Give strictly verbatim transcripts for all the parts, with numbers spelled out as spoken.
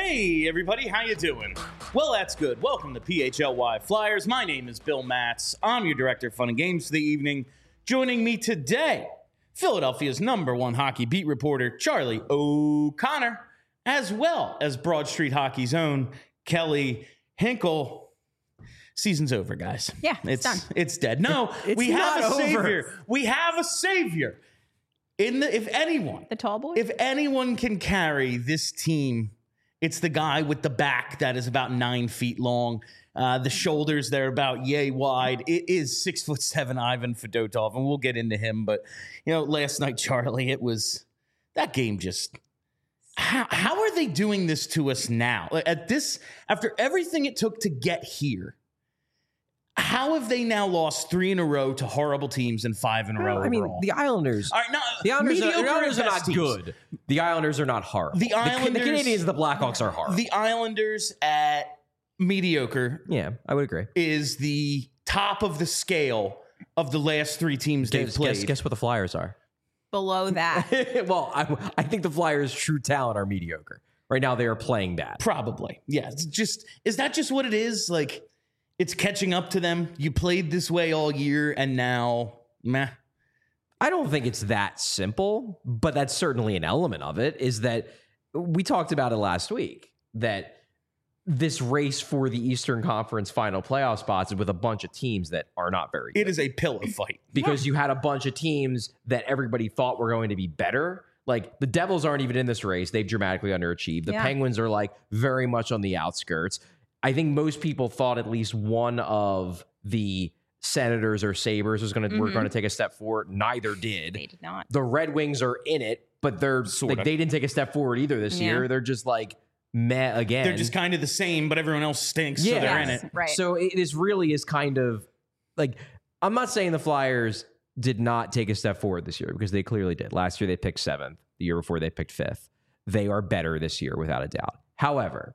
Hey, everybody, how you doing? Well, that's good. Welcome to P H L Y Flyers. My name is Bill Matz. I'm your director of fun and games for the evening. Joining me today, Philadelphia's number one hockey beat reporter, Charlie O'Connor, as well as Broad Street Hockey's own Kelly Hinkle. Season's over, guys. Yeah, it's, it's done. It's dead. No, It's we have a not over. savior. We have a savior. In the, if anyone, The tall boy? if anyone can carry this team, it's the guy with the back that is about nine feet long. Uh, the shoulders, they're about yay wide. It is six foot seven Ivan Fedotov, and we'll get into him. But, you know, last night, Charlie, it was that game just. How, how are they doing this to us now? Like, At this, after everything it took to get here, how have they now lost three in a row to horrible teams and five in a row I mean, overall? the Islanders. All right, no, The Islanders, are, mediocre the Islanders at are best not teams. good. The Islanders are not horrible. The The, Islanders- the Canadians and the Blackhawks are horrible. The Islanders at mediocre yeah, I would agree. is the top of the scale of the last three teams they've Guess, played. guess, guess what the Flyers are? Below that. well, I, I think the Flyers' true talent are mediocre. Right now, they are playing bad. Probably. Yeah. It's just is that just what it is? Like it's catching up to them. You played this way all year and now meh. I don't think it's that simple, but that's certainly an element of it, is that we talked about it last week, that this race for the Eastern Conference final playoff spots is with a bunch of teams that are not very good. It is a pillow fight. Because you had a bunch of teams that everybody thought were going to be better. Like the Devils aren't even in this race. They've dramatically underachieved. The Yeah. Penguins are like very much on the outskirts. I think most people thought at least one of the Senators or Sabres was going to were Mhm. going to take a step forward. Neither did. They did not. The Red Wings are in it, but they're Sorta. like they didn't take a step forward either this Yeah. year. They're just like meh again. They're just kind of the same, but everyone else stinks, so Yeah. they're in Yes, it. Right. So it is really is kind of like, I'm not saying the Flyers did not take a step forward this year, because they clearly did. Last year they picked seventh. The year before they picked fifth. They are better this year without a doubt. However,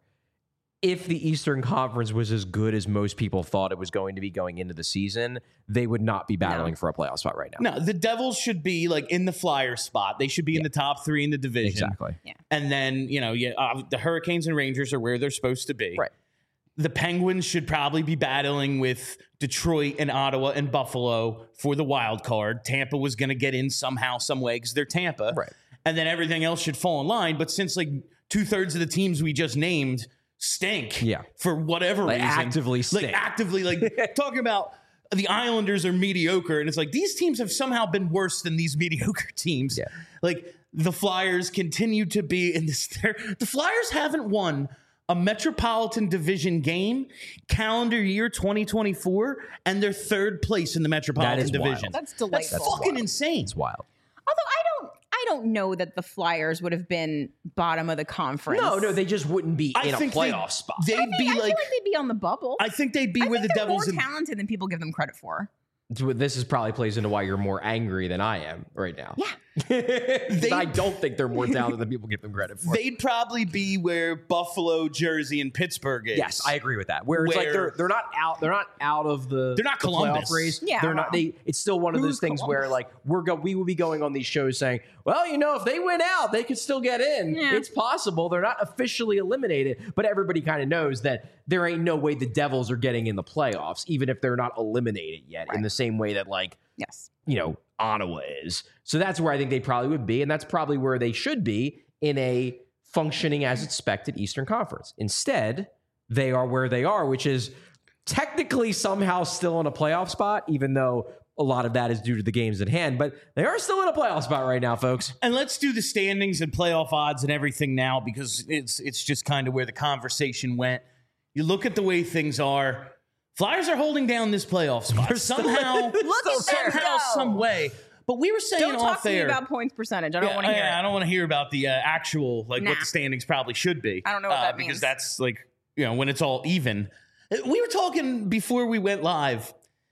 if the Eastern Conference was as good as most people thought it was going to be going into the season, they would not be battling for a playoff spot right now. No, the Devils should be like in the Flyer spot. They should be in the top three in the division. Exactly. And then, you know, yeah, uh, the Hurricanes and Rangers are where they're supposed to be. Right. The Penguins should probably be battling with Detroit and Ottawa and Buffalo for the wild card. Tampa was going to get in somehow, some way, because they're Tampa. Right. And then everything else should fall in line. But since like two thirds of the teams we just named stink, Yeah. for whatever Like, reason, actively stink. like actively, like talking about the Islanders are mediocre, and it's like these teams have somehow been worse than these mediocre teams. Yeah. Like the Flyers continue to be in this. The Flyers haven't won a Metropolitan Division game calendar year twenty twenty-four, and they're third place in the Metropolitan is Division. wild. That's That's delightful. fucking insane. It's wild. Although I don't I don't know that the Flyers would have been bottom of the conference. No, no, they just wouldn't be I in a think playoff they, spot. They'd I, think, be I feel like, like they'd be on the bubble. I think they'd be I where think the they're Devils. more And, talented than people give them credit for. This is probably plays into why you're more angry than I am right now. Yeah. 'Cause I don't think they're more talented than people give them credit for. they'd probably be where Buffalo, Jersey, and Pittsburgh is. Yes, I agree with that. Where it's like Where- they're they're not out they're not out of the They're not the Columbus. playoff race. Yeah, they're not. well. They it's still one of Who's those things where Columbus? like we're go we will be going on these shows saying, well, you know, if they win out, they could still get in. Yeah. It's possible. They're not officially eliminated, but everybody kind of knows that there ain't no way the Devils are getting in the playoffs, even if they're not eliminated yet. In Right. the same way that like Yes. you know, Ottawa is. So that's where I think they probably would be, and that's probably where they should be in a functioning as expected Eastern Conference. Instead, they are where they are, which is technically somehow still in a playoff spot, even though a lot of that is due to the games at hand, but they are still in a playoff spot right now, folks. And let's do the standings and playoff odds and everything now, because it's it's just kind of where the conversation went. You look at the way things are. Flyers are holding down this playoff spot They're still- somehow, Look at them somehow, go. some way. But we were saying Don't talk off to me air. about points percentage. I don't Yeah, want to hear I, I it. don't want to hear about the uh, actual like Nah. what the standings probably should be. I don't know what uh, that because means. that's like you know when it's all even. We were talking before we went live.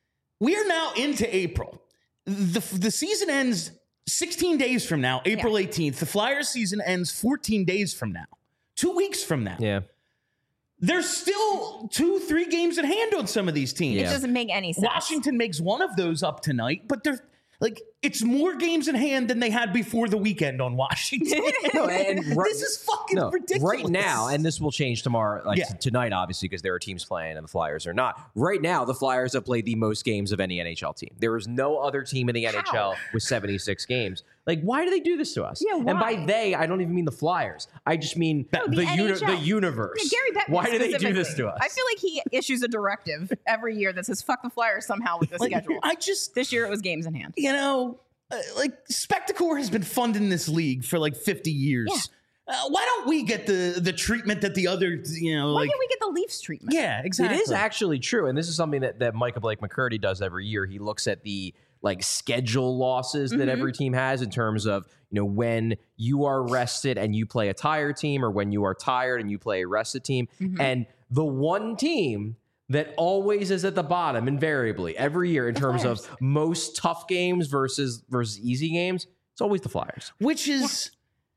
We are now into April. the The season ends sixteen days from now, April eighteenth. The Flyers season ends fourteen days from now, two weeks from now. Yeah. There's still two, three games at hand on some of these teams. It Yeah. doesn't make any sense. Washington makes one of those up tonight, but they're like it's more games in hand than they had before the weekend on Washington. No, and right- this is fucking No, ridiculous. right now, and this will change tomorrow, like Yeah. t- tonight, obviously, because there are teams playing and the Flyers are not. Right now, the Flyers have played the most games of any N H L team. There is no other team in the N H L with seventy-six games. Like, why do they do this to us? Yeah, And by why? they, I don't even mean the Flyers. I just mean No, the the, uni- N H L. the universe. Yeah, Gary Bettman Why do they do this specifically. to us? I feel like he issues a directive every year that says "fuck the Flyers" somehow with the Like, schedule. I just, This year it was games in hand. you know, uh, like Spectacor has been funding this league for like fifty years. Yeah. Uh, why don't we get the the treatment that the other, you know, Why like can't we get the Leafs treatment? yeah, exactly. It is actually true, and this is something that, that Micah Blake McCurdy does every year. He looks at the like schedule losses that Mhm. every team has in terms of, you know, when you are rested and you play a tired team, or when you are tired and you play a rested team. Mhm. And the one team that always is at the bottom invariably every year in terms Flyers. of most tough games versus versus easy games, it's always the Flyers. which is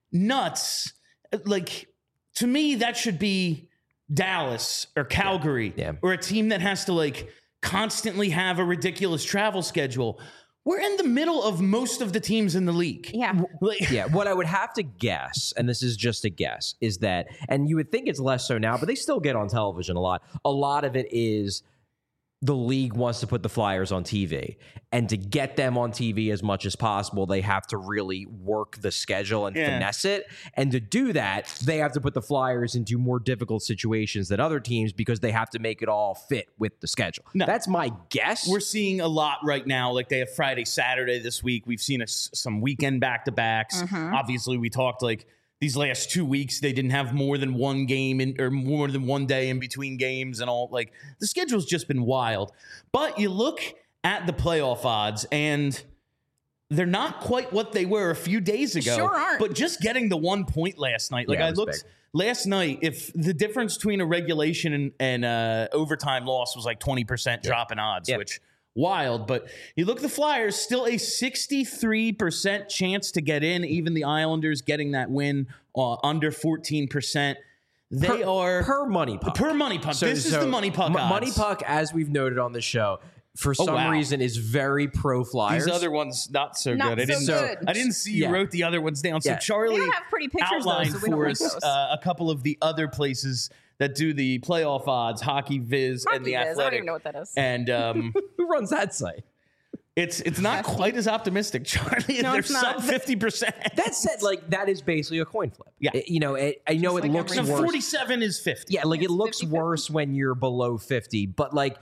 nuts. Like, to me, that should be Dallas or Calgary Yeah. or a team that has to like constantly have a ridiculous travel schedule. We're in the middle of most of the teams in the league. Yeah. Like, Yeah, what I would have to guess, and this is just a guess, is that, and you would think it's less so now, but they still get on television a lot. A lot of it is the league wants to put the Flyers on T V. And to get them on T V as much as possible, they have to really work the schedule and Yeah. finesse it. And to do that, they have to put the Flyers into more difficult situations than other teams because they have to make it all fit with the schedule. No. That's my guess. we're seeing a lot right now. Like they have Friday, Saturday this week. We've seen a, some weekend back to backs. Mhm. Obviously, we talked like these last two weeks, they didn't have more than one game in, or more than one day in between games and all. Like the schedule's just been wild. But you look at the playoff odds and they're not quite what they were a few days ago. Sure aren't. But just getting the one point last night, like Yeah, it I was looked big. last night, if the difference between a regulation and, and uh, overtime loss was like twenty percent drop in odds, Yeah. which wild. But you look at the Flyers, still a sixty-three percent chance to get in. Even the Islanders getting that win uh, under fourteen percent. They per, are per money puck. per money puck. So- this is so the money puck M- odds. Money puck, as we've noted on the show, for some wow. reason is very pro Flyers. These other ones not so Not good. I so didn't. good. I didn't see you Yeah. wrote the other ones down. So Yeah. They Charlie don't have pretty pictures though, outlined so we don't for like us those. uh, a couple of the other places that do the playoff odds, Hockey Viz and Hockey the Viz, I don't Athletic. even know what that is. And um, Who runs that site? it's it's not quite as optimistic, Charlie. No, They're it's not. sub fifty percent. That said, like that is basically a coin flip. Yeah. It- you know, it, I know Just it like looks every- No, worse. forty-seven is fifty. Yeah, like it It's looks fifty-fifty. worse when you're below fifty, but like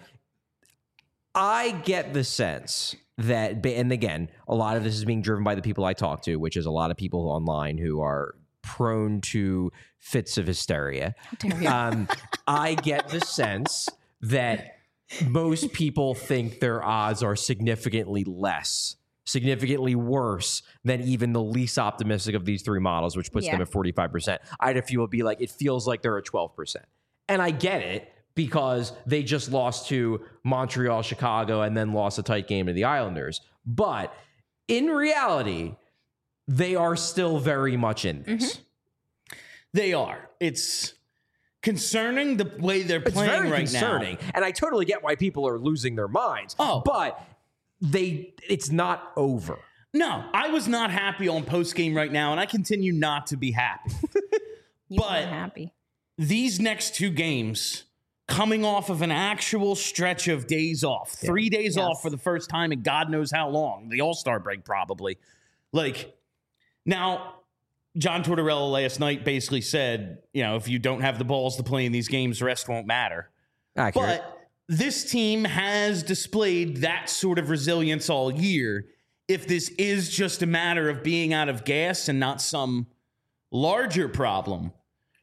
I get the sense that, and again, a lot of this is being driven by the people I talk to, which is a lot of people online who are prone to fits of hysteria. dare you. Um, I get the sense that most people think their odds are significantly less, significantly worse than even the least optimistic of these three models, which puts them Yeah. at forty-five percent. I had a few will be like, it feels like they're at twelve percent. And I get it because they just lost to Montreal, Chicago, and then lost a tight game to the Islanders. But in reality, they are still very much in this. They are. It's concerning the way they're It's playing very right concerning, now. and I totally get why people are losing their minds. Oh. but they, it's not over. No, I was not happy on post game right now, and I continue not to be happy. You but- weren't happy. These next two games, coming off of an actual stretch of days off, three days Yes. off for the first time in God knows how long, the All Star break probably. Like, now, John Tortorella last night basically said, you know, if you don't have the balls to play in these games, the rest won't matter. Accurate. But this team has displayed that sort of resilience all year. If this is just a matter of being out of gas and not some larger problem,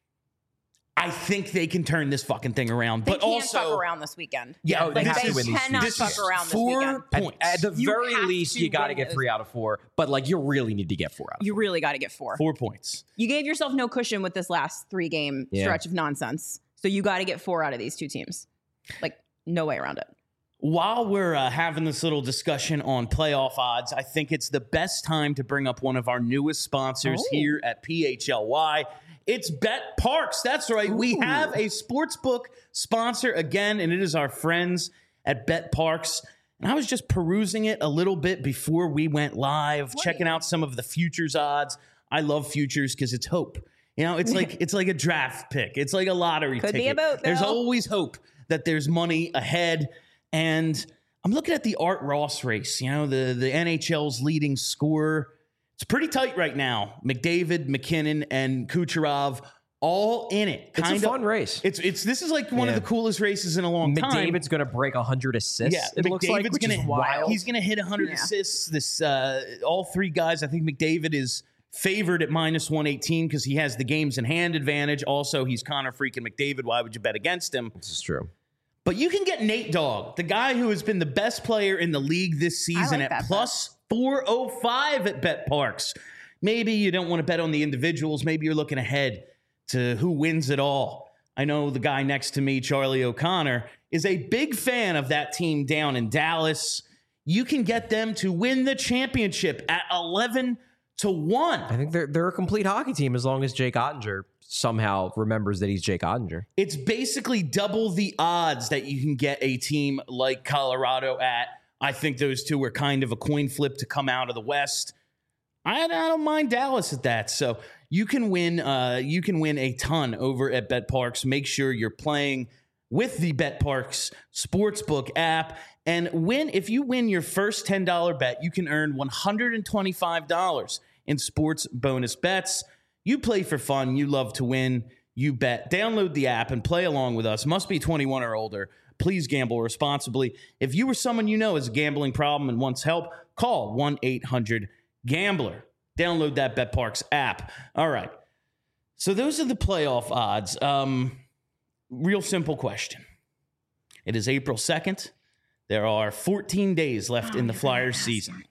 I think they can turn this fucking thing around. They but can't also, fuck around this weekend. yeah, Oh, they Like, have they to win these cannot this fuck is around this four weekend. At, points. at the You very have least, to you got to win get this. three out of four. But like, you really need to get four out of You four. really got to get four. four points. You gave yourself no cushion with this last three game Yeah. stretch of nonsense. So you got to get four out of these two teams. Like, no way around it. While we're uh, having this little discussion on playoff odds, I think it's the best time to bring up one of our newest sponsors Oh. here at P H L Y. It's Bet Parks. That's right. We Ooh. have a sportsbook sponsor again, and it is our friends at Bet Parks. And I was just perusing it a little bit before we went live, What? checking out some of the futures odds. I love futures because it's hope. You know, it's like it's like a draft pick. It's like a lottery Could ticket. be a boat, There's though. always hope that there's money ahead. And I'm looking at the Art Ross race, you know, the, the N H L's leading scorer. It's pretty tight right now. McDavid, McKinnon, and Kucherov all in it. It's Kind a of fun race. It's it's this is like one Yeah. of the coolest races in a long time. McDavid's going to break one hundred assists. Yeah, it looks like, McDavid's which gonna is wild. he's gonna hit one hundred Yeah. assists. This uh, all three guys. I think McDavid is favored at minus one eighteen because he has the games in hand advantage. Also, he's Connor freaking McDavid. Why would you bet against him? This is true. But you can get Nate Dogg, the guy who has been the best player in the league this season, like at that plus four oh five at Bet Parks. Maybe you don't want to bet on the individuals. Maybe you're looking ahead to who wins it all. I know the guy next to me, Charlie O'Connor, is a big fan of that team down in Dallas. You can get them to win the championship at eleven to one. I think they're they're a complete hockey team as long as Jake Ottinger somehow remembers that he's Jake Ottinger. It's basically double the odds that you can get a team like Colorado at. I think those two are kind of a coin flip to come out of the West. I, I don't mind Dallas at that. So you can win. Uh, you can win a ton over at Bet Parks. Make sure you're playing with the Bet Parks Sportsbook app, and win. If you win your first ten dollar bet, you can earn one hundred twenty-five dollars in sports bonus bets. You play for fun. You love to win. You bet. Download the app and play along with us. Must be twenty-one or older. Please gamble responsibly. If you or someone you know has a gambling problem and wants help, call one eight hundred gambler. Download that BetParks app. All right. So those are the playoff odds. Um, real simple question. It is April second. There are fourteen days left in the Flyers season.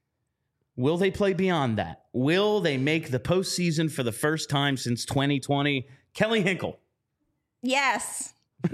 Will they play beyond that? Will they make the postseason for the first time since twenty twenty? Kelly Hinkle. Yes.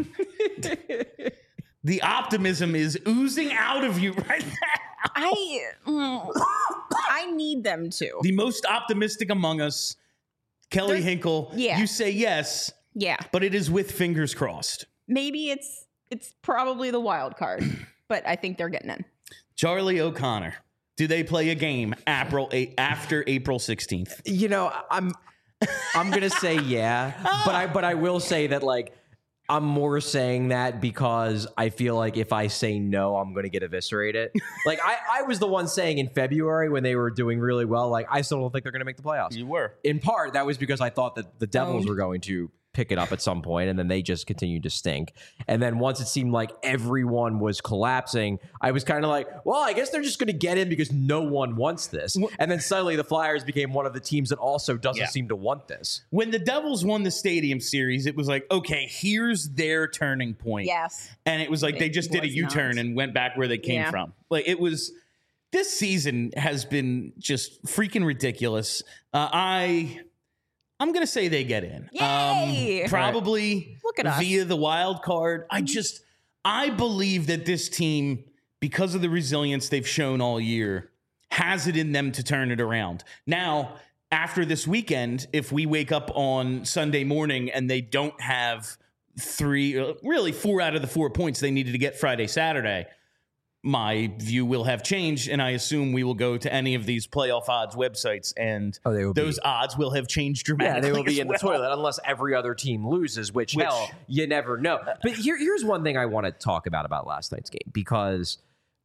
The optimism is oozing out of you right now. I mm, I need them to. The most optimistic among us, Kelly There's- Hinkle. yeah. You say yes, Yeah. but it is with fingers crossed. Maybe it's it's probably the wild card, but I think they're getting in. Charlie O'Connor. Do they play a game April after April sixteenth? You know, I'm I'm gonna say yeah, but I but I will say that like I'm more saying that because I feel like if I say no, I'm gonna get eviscerated. Like I, I was the one saying in February when they were doing really well, like I still don't think they're gonna make the playoffs. You were. In part, that was because I thought that the Devils Owned. were going to pick it up at some point, and then they just continued to stink. And then once it seemed like everyone was collapsing, I was kind of like, well, I guess they're just going to get in because no one wants this. And then suddenly the Flyers became one of the teams that also doesn't Yeah. seem to want this. When the Devils won the Stadium Series, it was like, okay, here's their turning point. Yes. And it was like they It just did a was U-turn not. and went back where they came Yeah. from. Like it was, this season has been just freaking ridiculous. Uh, I, I'm gonna say they get in. Yay! Um, probably Look at us. via the wild card. I just, I believe that this team, because of the resilience they've shown all year, has it in them to turn it around. Now, after this weekend, if we wake up on Sunday morning and they don't have three, uh, really four out of the four points they needed to get Friday, Saturday, my view will have changed, and I assume we will go to any of these playoff odds websites, and Oh, they will be- those odds will have changed Yeah, dramatically. they will be as in the well. toilet unless every other team loses, which, Which- hell, you never know. But here, here's one thing I want to talk about about last night's game because,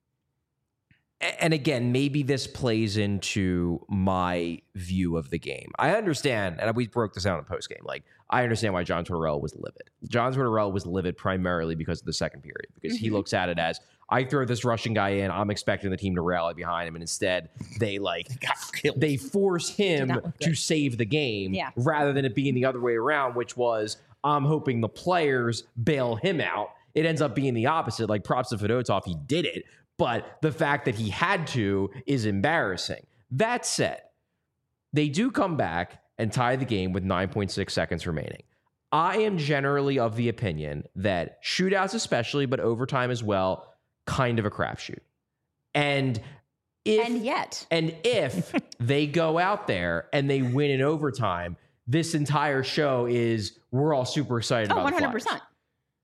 and again, maybe this plays into my view of the game. I understand, and we broke this out in post game. Like, I understand why John Tortorella was livid. John Tortorella was livid primarily because of the second period, because he looks at it as I throw this Russian guy in, I'm expecting the team to rally behind him, and instead they like Got killed. they force him not look to good. save the game Yeah. rather than it being the other way around, which was I'm hoping the players bail him out. It ends up being the opposite. Like props to Fedotov, he did it, but the fact that he had to is embarrassing. That said, they do come back and tie the game with nine point six seconds remaining. I am generally of the opinion that shootouts especially, but overtime as well, kind of a crapshoot. And if And yet. and if they go out there and they win in overtime, this entire show is we're all super excited Oh, about one the hundred Flyers. percent.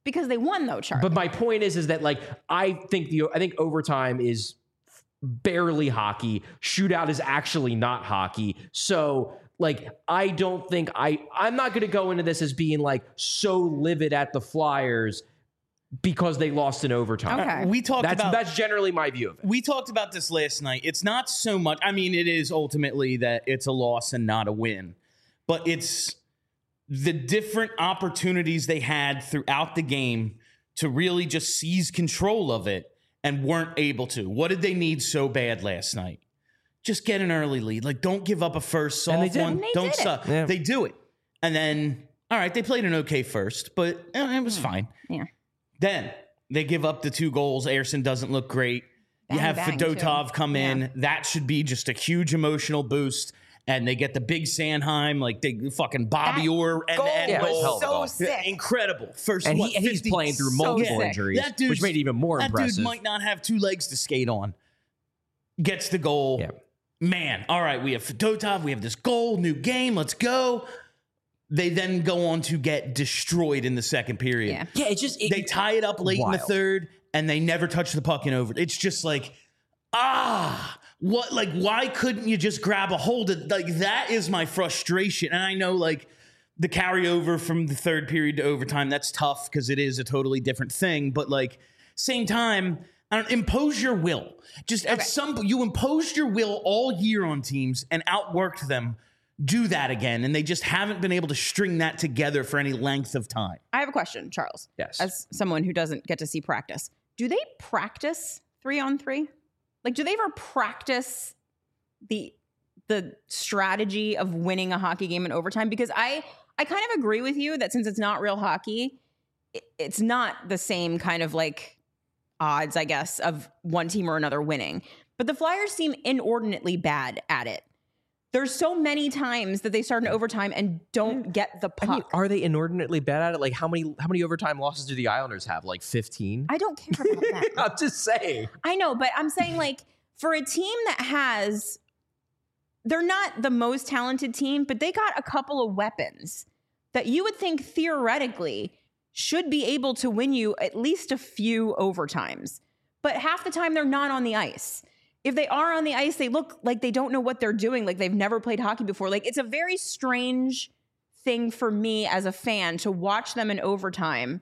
Because they won, though, Charlie. But my point is, is that like I think the I think overtime is barely hockey. Shootout is actually not hockey. So like I don't think I I'm not going to go into this as being like so livid at the Flyers because they lost in overtime. Okay. We talked That's about that's generally my view of it. we talked about this last night. It's not so much. I mean, it is ultimately that it's a loss and not a win, but it's the different opportunities they had throughout the game to really just seize control of it and weren't able to. What did they need so bad last night? Just get an early lead. Like, don't give up a first And they soft did. one. And they Don't did it. suck. Yeah. They do it. And then, all right, they played an okay first, but eh, it was fine. Yeah. Then they give up the two goals. Ayerson doesn't look great. you Bang, have bang, Fedotov too. come in. Yeah. That should be just a huge emotional boost. And they get the big Sanheim, like they fucking Bobby That Orr and goal and Yeah, was hell of a so goal. sick. incredible. First, And, what, he, and he's fifty playing through so multiple sick. injuries, That dude's- which made it even more that impressive. dude might not have two legs to skate on. Gets the goal. Yeah. Man, all right, we have Fedotov. We have this goal, new game. Let's go. They then go on to get destroyed in the second period. Yeah. Yeah, it's just it, They tie it up late in the Wild. third, and they never touch the puck in over. It's just like, ah, what? Like, why couldn't you just grab a hold of? Like, that is my frustration. And I know, like, the carryover from the third period to overtime, that's tough because it is a totally different thing. But like, same time, I don't impose your will. Just at Okay. some you imposed your will all year on teams and outworked them. Do that again, and they just haven't been able to string that together for any length of time. I have a question, Charles. Yes. As someone who doesn't get to see practice, do they practice three on three? Like, do they ever practice the the strategy of winning a hockey game in overtime? Because I I kind of agree with you that since it's not real hockey, it, it's not the same kind of like odds, I guess, of one team or another winning. But the Flyers seem inordinately bad at it. There's so many times that they start in overtime and don't get the I puck. mean, are they inordinately bad at it? Like, how many how many overtime losses do the Islanders have? Like fifteen? I don't care about that. I'm just saying. I know, but I'm saying like for a team that has, they're not the most talented team, but they got a couple of weapons that you would think theoretically should be able to win you at least a few overtimes. But half the time they're not on the ice. If they are on the ice, they look like they don't know what they're doing, like they've never played hockey before. Like, it's a very strange thing for me as a fan to watch them in overtime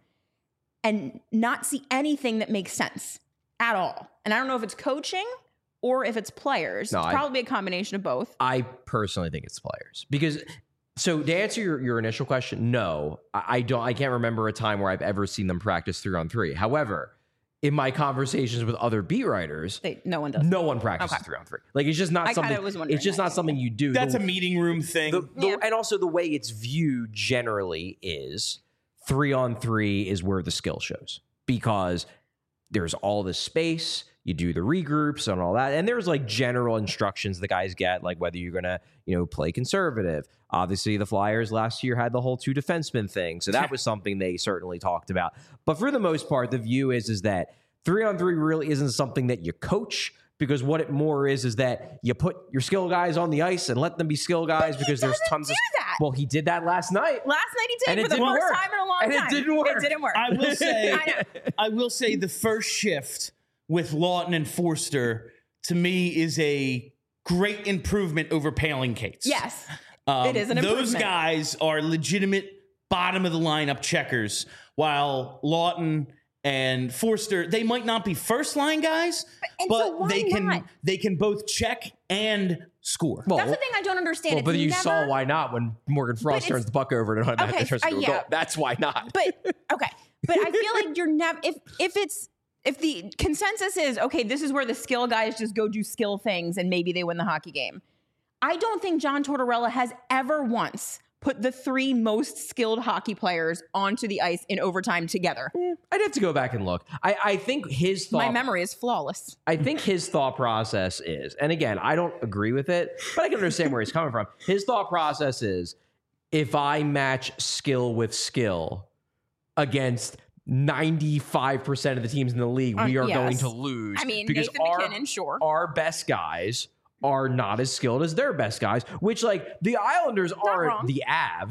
and not see anything that makes sense at all. And I don't know if it's coaching or if it's players. No, it's I- probably a combination of both. I personally think it's players because. So to answer your, your initial question, no, I, I don't. I can't remember a time where I've ever seen them practice three on three. However, in my conversations with other beat writers, They, no one does. no one practices Okay. three on three. Like it's just not I kinda something. was wondering It's just that not too. something you do. That's The- a meeting room thing. the, the, Yeah. and also the way it's viewed generally is three on three is where the skill shows because there's all this space. You do the regroups and all that, and there's like general instructions the guys get, like whether you're gonna, you know, play conservative. Obviously, the Flyers last year had the whole two defensemen thing, so that was something they certainly talked about. But for the most part, the view is is that three on three really isn't something that you coach. Because what it more is is that you put your skill guys on the ice and let them be skill guys because there's doesn't tons do of that. well, he did that last night. Last night he And did it for the didn't first work. time in a long And it time. didn't work. It didn't work. I will say, I know. I will say the first shift with Lawton and Forster to me is a great improvement over Paling Cates. Yes. Um, It is an Those improvement. guys are legitimate bottom of the lineup checkers, while Lawton and Forster, they might not be first line guys, and but so why they can not? they can both check and score. Well, That's the thing I don't understand. well, It's but you never, saw why not when Morgan Frost it's- turns the puck over and Okay, that turns uh, into a yeah. goal. That's why not. But okay, but I feel like you're never if if it's if the consensus is okay, this is where the skill guys just go do skill things and maybe they win the hockey game. I don't think John Tortorella has ever once put the three most skilled hockey players onto the ice in overtime together. I'd have to go back and look. I, I think his thought My memory is flawless. I think his thought process is, and again, I don't agree with it, but I can understand where he's coming from. His thought process is if I match skill with skill against ninety-five percent of the teams in the league, we Uh, are yes. going to lose. I mean, because Nathan our, McKinnon, sure. our best guys are not as skilled as their best guys, which like the Islanders wrong. aren't the Avs,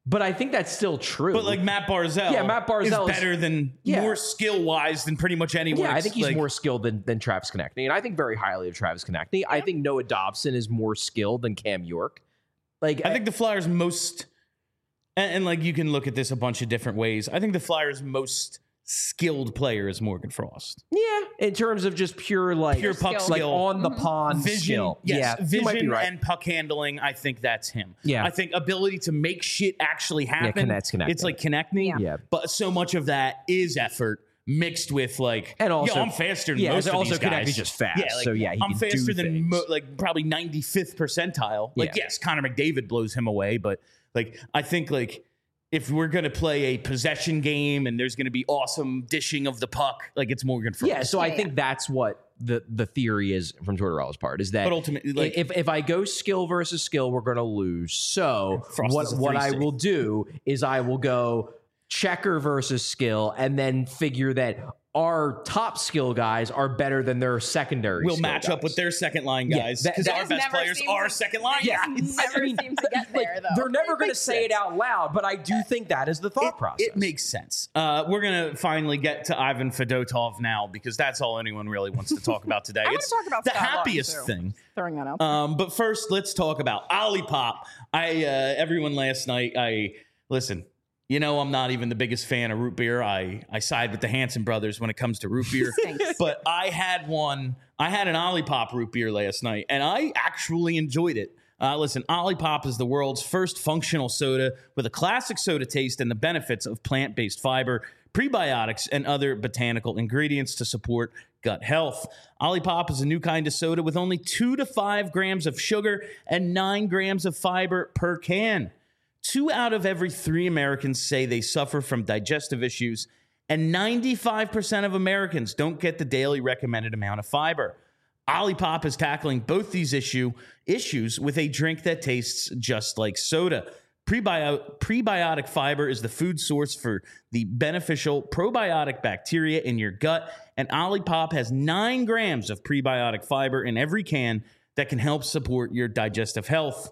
But I think that's still true. But like Matt Barzell, Yeah, Matt Barzell is is- better than Yeah. more skill wise than pretty much anyone. Yeah, I think he's like, more skilled than, than Travis Konechny, and I think very highly of Travis Konechny. I think Noah Dobson is more skilled than Cam York. Like, I think the Flyers' most, and, and like you can look at this a bunch of different ways. I think the Flyers' most skilled player is Morgan Frost. yeah, in terms of just pure like Pure puck skill. like skill, on the pond vision, skill. yes, yeah, you vision might be right. and puck handling. I think that's him. Yeah. I think ability to make shit actually happen. Konech's Konechny. It's like Konechny. Yeah. Yeah. But so much of that is effort mixed with like, And also- yo, I'm faster than yeah, most of also these guys. Konechny's just fast, Yeah, like, so yeah, he I'm can do faster than things. mo- like probably ninety-fifth percentile. Like Yeah. yes, Connor McDavid blows him away, but like I think like if we're gonna play a possession game and there's gonna be awesome dishing of the puck, like it's Morgan Frost. Yeah, so I Yeah, think that's what the the theory is from Tortorella's part is that But ultimately, like- if if I go skill versus skill, we're going to lose. So Frost what is a what I three C. will do is I will go checker versus skill, and then figure that our top skill guys are better than their secondary. we'll skill match up guys. with their second line Yeah, guys that- because that our just best never players seems are to- second line Yeah, guys. Never I mean, seem to get there, though. They're never going to makes say it sense. out loud, but I do think that is the thought It, process. it makes sense. Uh, we're gonna finally get to Ivan Fedotov now because that's all anyone really wants to talk about today. I wanna it's talk about the Scott Laughton, happiest too. thing. Throwing that out. Um, but first, let's talk about Olipop. I uh, everyone last night. I listen. You know, I'm not even the biggest fan of root beer. I I side with the Hanson brothers when it comes to root beer. Thanks. But I had one. I had an Olipop root beer last night, and I actually enjoyed it. Uh, listen, Olipop is the world's first functional soda with a classic soda taste and the benefits of plant-based fiber, prebiotics, and other botanical ingredients to support gut health. Olipop is a new kind of soda with only two to five grams of sugar and nine grams of fiber per can. Two out of every three Americans say they suffer from digestive issues, and ninety-five percent of Americans don't get the daily recommended amount of fiber. Olipop is tackling both these issue issues with a drink that tastes just like soda. Prebio- prebiotic fiber is the food source for the beneficial probiotic bacteria in your gut, and Olipop has nine grams of prebiotic fiber in every can that can help support your digestive health.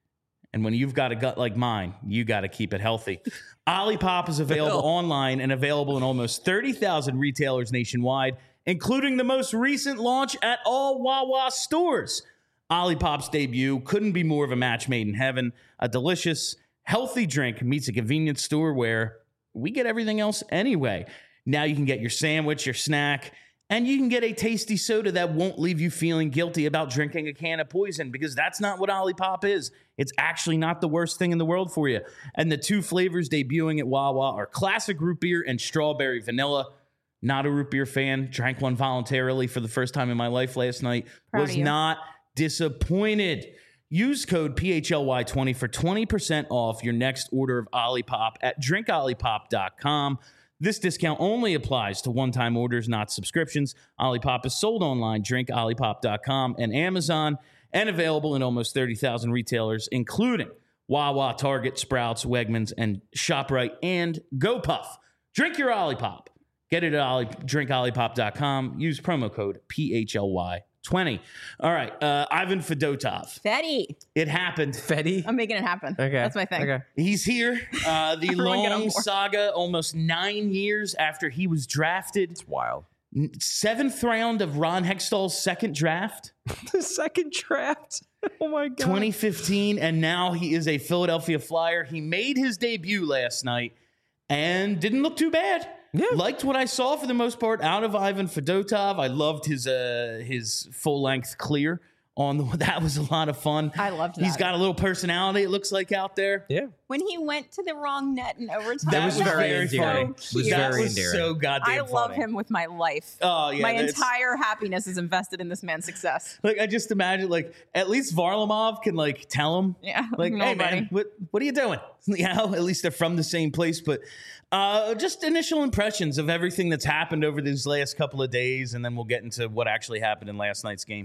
And when you've got a gut like mine, you got to keep it healthy. Olipop is available online and available in almost thirty thousand retailers nationwide, including the most recent launch at all Wawa stores. Olipop's debut couldn't be more of a match made in heaven. A delicious, healthy drink meets a convenience store where we get everything else anyway. Now you can get your sandwich, your snack, and you can get a tasty soda that won't leave you feeling guilty about drinking a can of poison, because that's not what Olipop is. It's actually not the worst thing in the world for you. And the two flavors debuting at Wawa are classic root beer and strawberry vanilla. Not a root beer fan. Drank one voluntarily for the first time in my life last night. Proud Was of you. not disappointed. Use code P H L Y twenty for twenty percent off your next order of Olipop at drink olipop dot com. This discount only applies to one-time orders, not subscriptions. Olipop is sold online, drink olipop dot com and Amazon, and available in almost thirty thousand retailers, including Wawa, Target, Sprouts, Wegmans, and ShopRite, and GoPuff. Drink your Olipop. Get it at Oli- drink olipop dot com. Use promo code P H L Y twenty. All right, uh, Ivan Fedotov. Fetty. It happened. Fetty. I'm making it happen. Okay, That's my thing. Okay. He's here. Uh, the Everyone get on long board. saga, almost nine years after he was drafted. It's wild. N- Seventh round of Ron Hextall's second draft, The second draft. Oh my god. twenty fifteen, and now he is a Philadelphia Flyer. He made his debut last night and didn't look too bad. Yeah. Liked what I saw for the most part out of Ivan Fedotov. I loved his uh, his full length clear on the, that was a lot of fun. I loved He's that. got a little personality, it looks like, out there. Yeah. When he went to the wrong net in overtime. That was was very very endearing. funny. It was cute. That very was endearing. so goddamn I love funny. him with my life. Oh yeah, my that's- entire happiness is invested in this man's success. Like I just imagine, like at least Varlamov can like tell him, Yeah, like, hey nobody. man, what what are you doing? You know, at least they're from the same place. But uh, just initial impressions of everything that's happened over these last couple of days, and then we'll get into what actually happened in last night's game.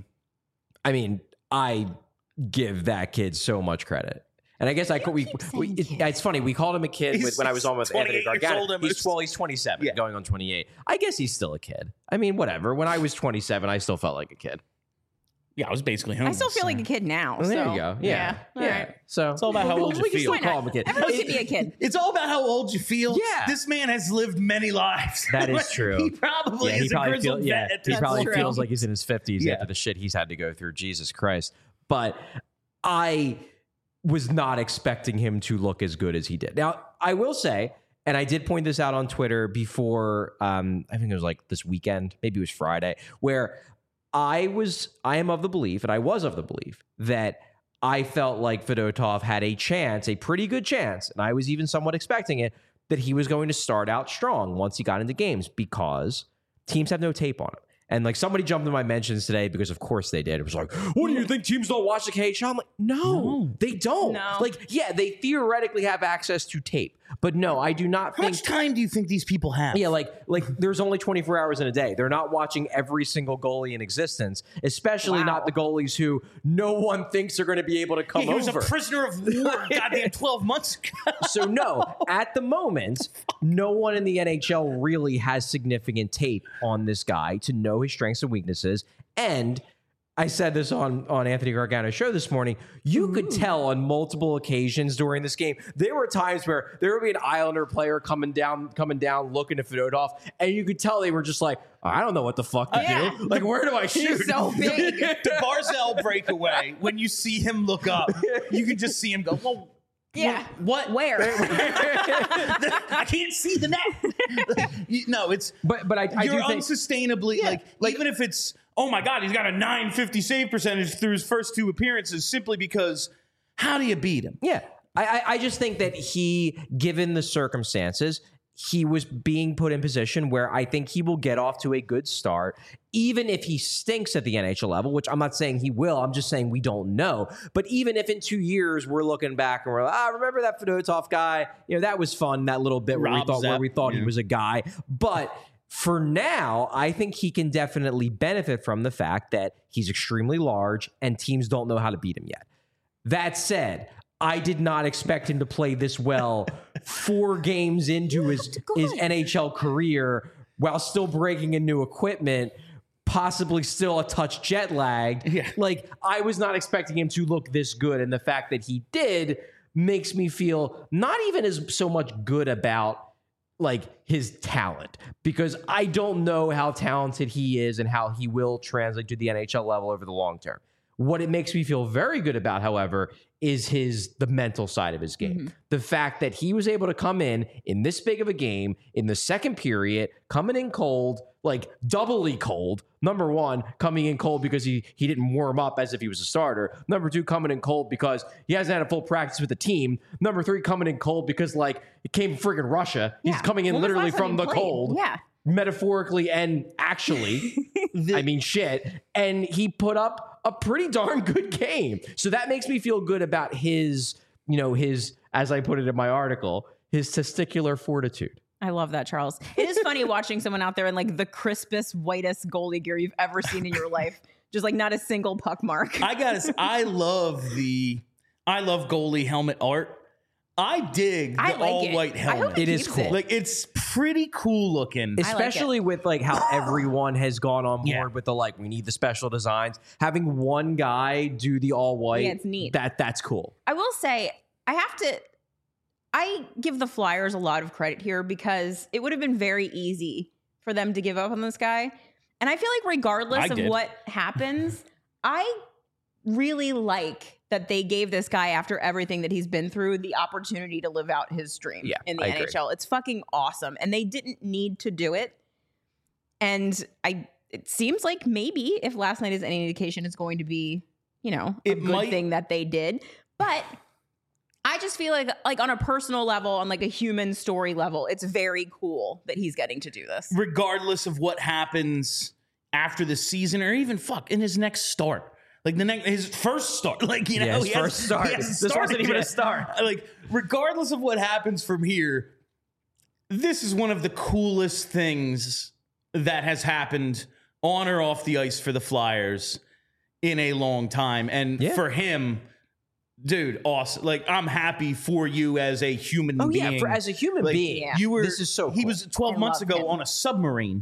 I mean, I give that kid so much credit. And I guess I could, we, keep we saying it, kid. it's funny. We called him a kid He's- with, when I was on with he's Anthony twenty-eight years old Gargano. almost. He's, well, he's twenty-seven, Yeah. going on twenty-eight. I guess he's still a kid. I mean, whatever. When I was twenty-seven, I still felt like a kid. Yeah, I was basically I homeless. still feel like a kid now. Well, there so, you go. Yeah. All Yeah. right. So It's all about how we- old you we can feel. still call him a kid. Everyone can be a kid. It's all about how old you feel. Yeah. This man has lived many lives. That is true. He probably Yeah, he is probably, a grizzled feel, yeah, vet at he this probably true. feels like he's in his fifties Yeah. after the shit he's had to go through. Jesus Christ. But I was not expecting him to look as good as he did. Now, I will say, and I did point this out on Twitter before, um, I think it was like this weekend, maybe it was Friday, where I was, I am of the belief, and I was of the belief that I felt like Fedotov had a chance, a pretty good chance, and I was even somewhat expecting it, that he was going to start out strong once he got into games because teams have no tape on him. And like somebody jumped in my mentions today because of course they did. It was like, what do you think teams don't watch the K H L? I'm like, no, No. they don't. No. Like, yeah, they theoretically have access to tape, but no, I do not How think. much time do you think these people have? Yeah, like like there's only twenty-four hours in a day. They're not watching every single goalie in existence, especially Wow. not the goalies who no one thinks are going to be able to come Yeah, he was over. a prisoner of war goddamn twelve months ago. So no, at the moment, no one in the N H L really has significant tape on this guy to know his strengths and weaknesses. And I said this on, on Anthony Gargano's show this morning. You could tell on multiple occasions during this game. There were times where there would be an Islander player coming down, coming down, looking at Fedotov, and you could tell they were just like, I don't know what the fuck to Yeah. do. Like, where do I shoot? He's so big. The Barzell breakaway, when you see him look up, you can just see him go, well, Yeah. what? Where? I can't see the net. You- no, it's But but I, I you're do think unsustainably like, like- even if it's oh my god, he's got a nine fifty save percentage through his first two appearances simply because how do you beat him? Yeah. I, I, I just think that he, given the circumstances, he was being put in position where I think he will get off to a good start, even if he stinks at the N H L level, which I'm not saying he will. I'm just saying we don't know. But even if in two years we're looking back and we're like, ah, remember that Fedotov guy? You know, that was fun, that little bit where we Rob thought, where Zepp, we thought yeah. he was a guy. But for now, I think he can definitely benefit from the fact that he's extremely large and teams don't know how to beat him yet. That said, I did not expect him to play this well four games into his, his N H L career while still breaking in new equipment, possibly still a touch jet lagged. Yeah. Like, I was not expecting him to look this good. And the fact that he did makes me feel not even as so much good about like his talent, because I don't know how talented he is and how he will translate to the N H L level over the long term. What it makes me feel very good about, however, is his the mental side of his game. Mm-hmm. The fact that he was able to come in in this big of a game in the second period, coming in cold, like doubly cold. Number one, coming in cold because he he didn't warm up as if he was a starter. Number two, coming in cold because he hasn't had a full practice with the team. Number three, coming in cold because like it came from friggin' Russia. He's Yeah. coming in When was the literally last time from he the played? cold. Yeah. Metaphorically and actually. I mean, shit. And he put up a pretty darn good game. So that makes me feel good about his, you know, his, as I put it in my article, his testicular fortitude. I love that, Charles. It is funny watching someone out there in like the crispest, whitest goalie gear you've ever seen in your life. Just like not a single puck mark. I gotta say, I love the I love goalie helmet art. I dig the I like all it. white I hope helmet. he It is keeps cool. it. Like it's pretty cool looking. like it. Especially with like how everyone has gone on board Yeah. with the like, we need the special designs. Having one guy do the all white. Yeah, it's neat. That that's cool. I will say, I have to, I give the Flyers a lot of credit here because it would have been very easy for them to give up on this guy. And I feel like regardless I of did. what happens, I really like that they gave this guy, after everything that he's been through, the opportunity to live out his dream Yeah, in the I N H L. It's fucking awesome. And they didn't need to do it. And I, it seems like maybe if last night is any indication, it's going to be, you know, a It good might- thing that they did. But I just feel like, like on a personal level, on like a human story level, it's very cool that he's getting to do this. Regardless of what happens after the season or even fuck in his next start. Like the next, his first start, like you know, Yeah, his he first hasn't- start. he hasn't This wasn't started even a yet. start. Like, regardless of what happens from here, this is one of the coolest things that has happened on or off the ice for the Flyers in a long time, and Yeah. for him, dude, awesome. Like, I'm happy for you as a human Oh being. yeah, for, as a human Like, being, Yeah. you were. this is so He cool. was twelve I months love ago him. on a submarine.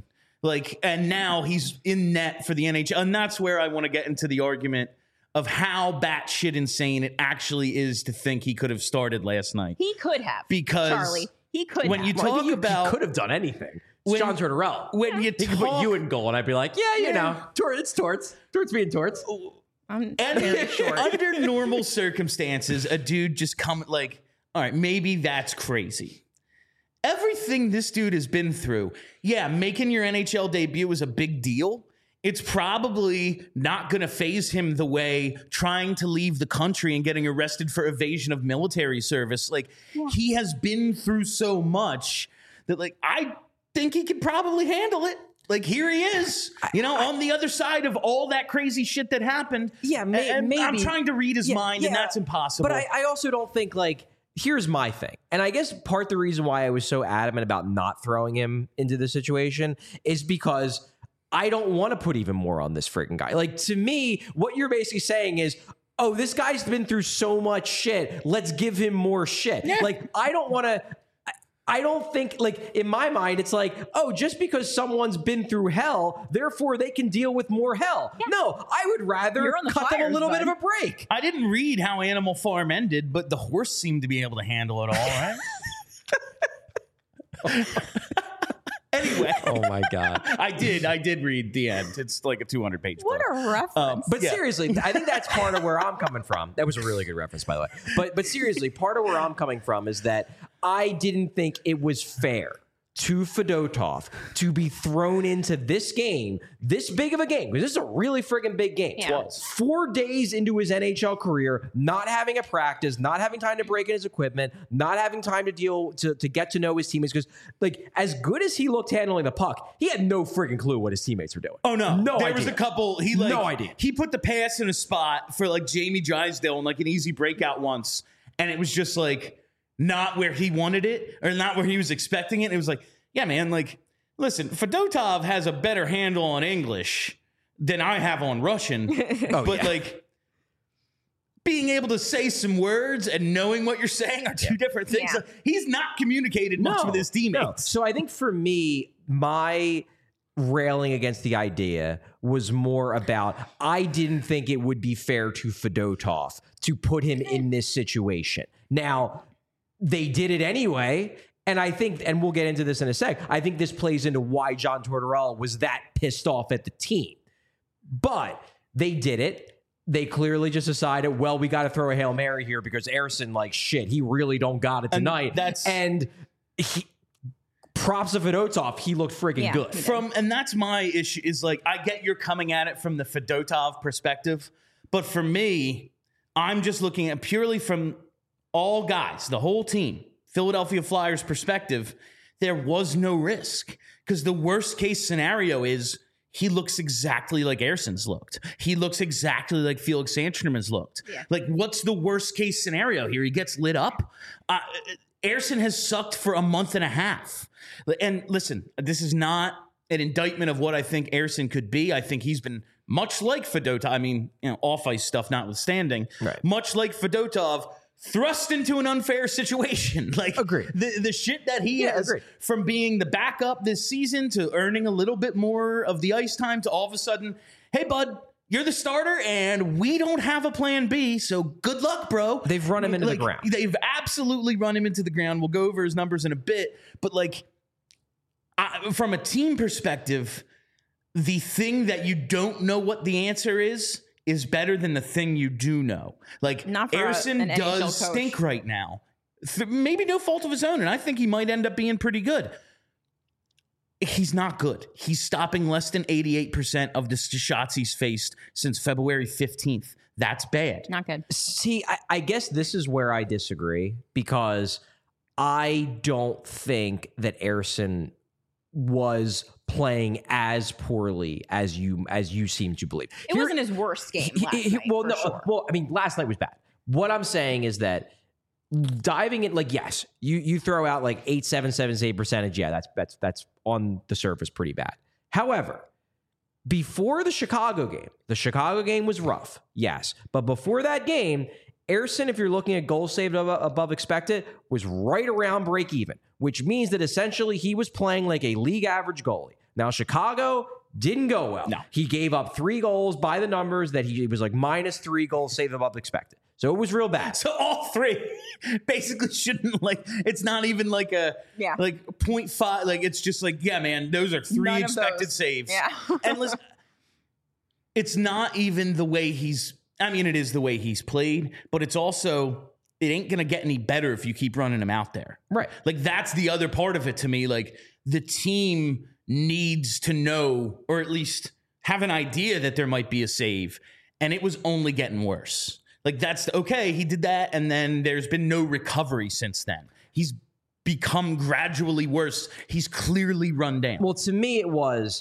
Like, and now he's in net for the N H L. And that's where I want to get into the argument of how batshit insane it actually is to think he could have started last night. He could have. Because Charlie, he could when have. you Well, I talk think he, about he could have done anything. It's when- John Tortorella. when you He could put talk- you in goal, and I'd be like, yeah, you Yeah. know, Tor- it's Torts. Torts being Torts. I'm And very short. under normal circumstances, a dude just come like, all right, maybe that's crazy. Everything this dude has been through, yeah, making your N H L debut was a big deal. It's probably not going to phase him the way trying to leave the country and getting arrested for evasion of military service. Like, Yeah. he has been through so much that, like, I think he could probably handle it. Like, here he is, you know, on the other side of all that crazy shit that happened. Yeah, may- and I'm maybe. trying to read his Yeah, mind, and yeah. that's impossible. But I, I also don't think, like, here's my thing. And I guess part of the reason why I was so adamant about not throwing him into the situation is because I don't want to put even more on this freaking guy. Like, to me, what you're basically saying is, oh, this guy's been through so much shit. Let's give him more shit. Yeah. Like, I don't want to. I don't think, like, in my mind, it's like, oh, just because someone's been through hell, therefore they can deal with more hell. No, I would rather You're on the cut them a Flyers, little bit bud. of a break. I didn't read how Animal Farm ended, but the horse seemed to be able to handle it all, right? Anyway, Oh, my God. I did. I did read the end. It's like a two hundred page What book. a reference. Um, But Yeah. seriously, I think that's part of where I'm coming from. That was a really good reference, by the way. But but seriously, part of where I'm coming from is that I didn't think it was fair to Fedotov to be thrown into this game, this big of a game, because this is a really friggin' big game. Yeah. Was. Four days into his N H L career, not having a practice, not having time to break in his equipment, not having time to deal to, to get to know his teammates. Because, like, as good as he looked handling the puck, he had no friggin' clue what his teammates were doing. Oh no! no there idea. was a couple. He like No idea. He put the pass in a spot for like Jamie Drysdale in like an easy breakout once, and it was just like not where he wanted it or not where he was expecting it. It was like, yeah, man. Like, listen, Fedotov has a better handle on English than I have on Russian, Oh, but yeah. like being able to say some words and knowing what you're saying are two different things. Yeah. Like, he's not communicated much No, with his no. teammates. So I think for me, my railing against the idea was more about I didn't think it would be fair to Fedotov to put him in this situation. Now, they did it anyway. And I think, and we'll get into this in a sec, I think this plays into why John Tortorella was that pissed off at the team. But they did it. They clearly just decided, well, we got to throw a Hail Mary here because Erson, like, shit, he really don't got it And tonight. that's- and he, props to Fedotov, he looked friggin' Yeah. good. From and that's my issue is like I get you're coming at it from the Fedotov perspective, but for me, I'm just looking at purely from all guys, the whole team, Philadelphia Flyers perspective. There was no risk because the worst case scenario is he looks exactly like Erson's looked. He looks exactly like Felix Sandstrom has looked. Yeah. Like, what's the worst case scenario here? He gets lit up. Uh, Erson has sucked for a month and a half. And listen, this is not an indictment of what I think Erson could be. I think he's been much like Fedotov. I mean, you know, off-ice stuff notwithstanding, Right. much like Fedotov, thrust into an unfair situation. Like, Agreed. the, the shit that he Yeah, has agreed. from being the backup this season to earning a little bit more of the ice time to all of a sudden, hey, bud, you're the starter and we don't have a plan B, so good luck, bro. They've run him into the Like, ground. They've absolutely run him into the ground. We'll go over his numbers in a bit, but like I, from a team perspective, the thing that you don't know what the answer is is better than the thing you do know. Like Not for a- Erson an N H L does coach. stink right now. Th- maybe no fault of his own, and I think he might end up being pretty good. He's not good. He's stopping less than eighty-eight percent of the shots he's faced since February fifteenth. That's bad. Not good. See, I, I guess this is where I disagree because I don't think that Erson was playing as poorly as you as you seem to believe. It Here- wasn't his worst game he- last he- night, well, for no, sure. well, I mean, last night was bad. What I'm saying is that diving in, like, yes, you you throw out like eight, seven, seven, eight percentage. Yeah, that's that's that's on the surface pretty bad. However, before the Chicago game, the Chicago game was rough, yes, but before that game, Erson, if you're looking at goals saved above, above expected, was right around break even, which means that essentially he was playing like a league average goalie. Now, Chicago didn't go well. No. He gave up three goals by the numbers that he, he was like minus three goals saved above expected. So it was real bad. So all three basically shouldn't, like, it's not even like a Yeah. like point five. Like, it's just like, yeah, man, those are three None of expected those. saves. Yeah. And listen, it's not even the way he's, I mean, it is the way he's played, but it's also, it ain't going to get any better if you keep running him out there. Right. Like, that's the other part of it to me. Like, the team needs to know, or at least have an idea that there might be a save, and it was only getting worse. Like, that's okay, he did that, and then there's been no recovery since then. He's become gradually worse. He's clearly run down. Well, to me, it was,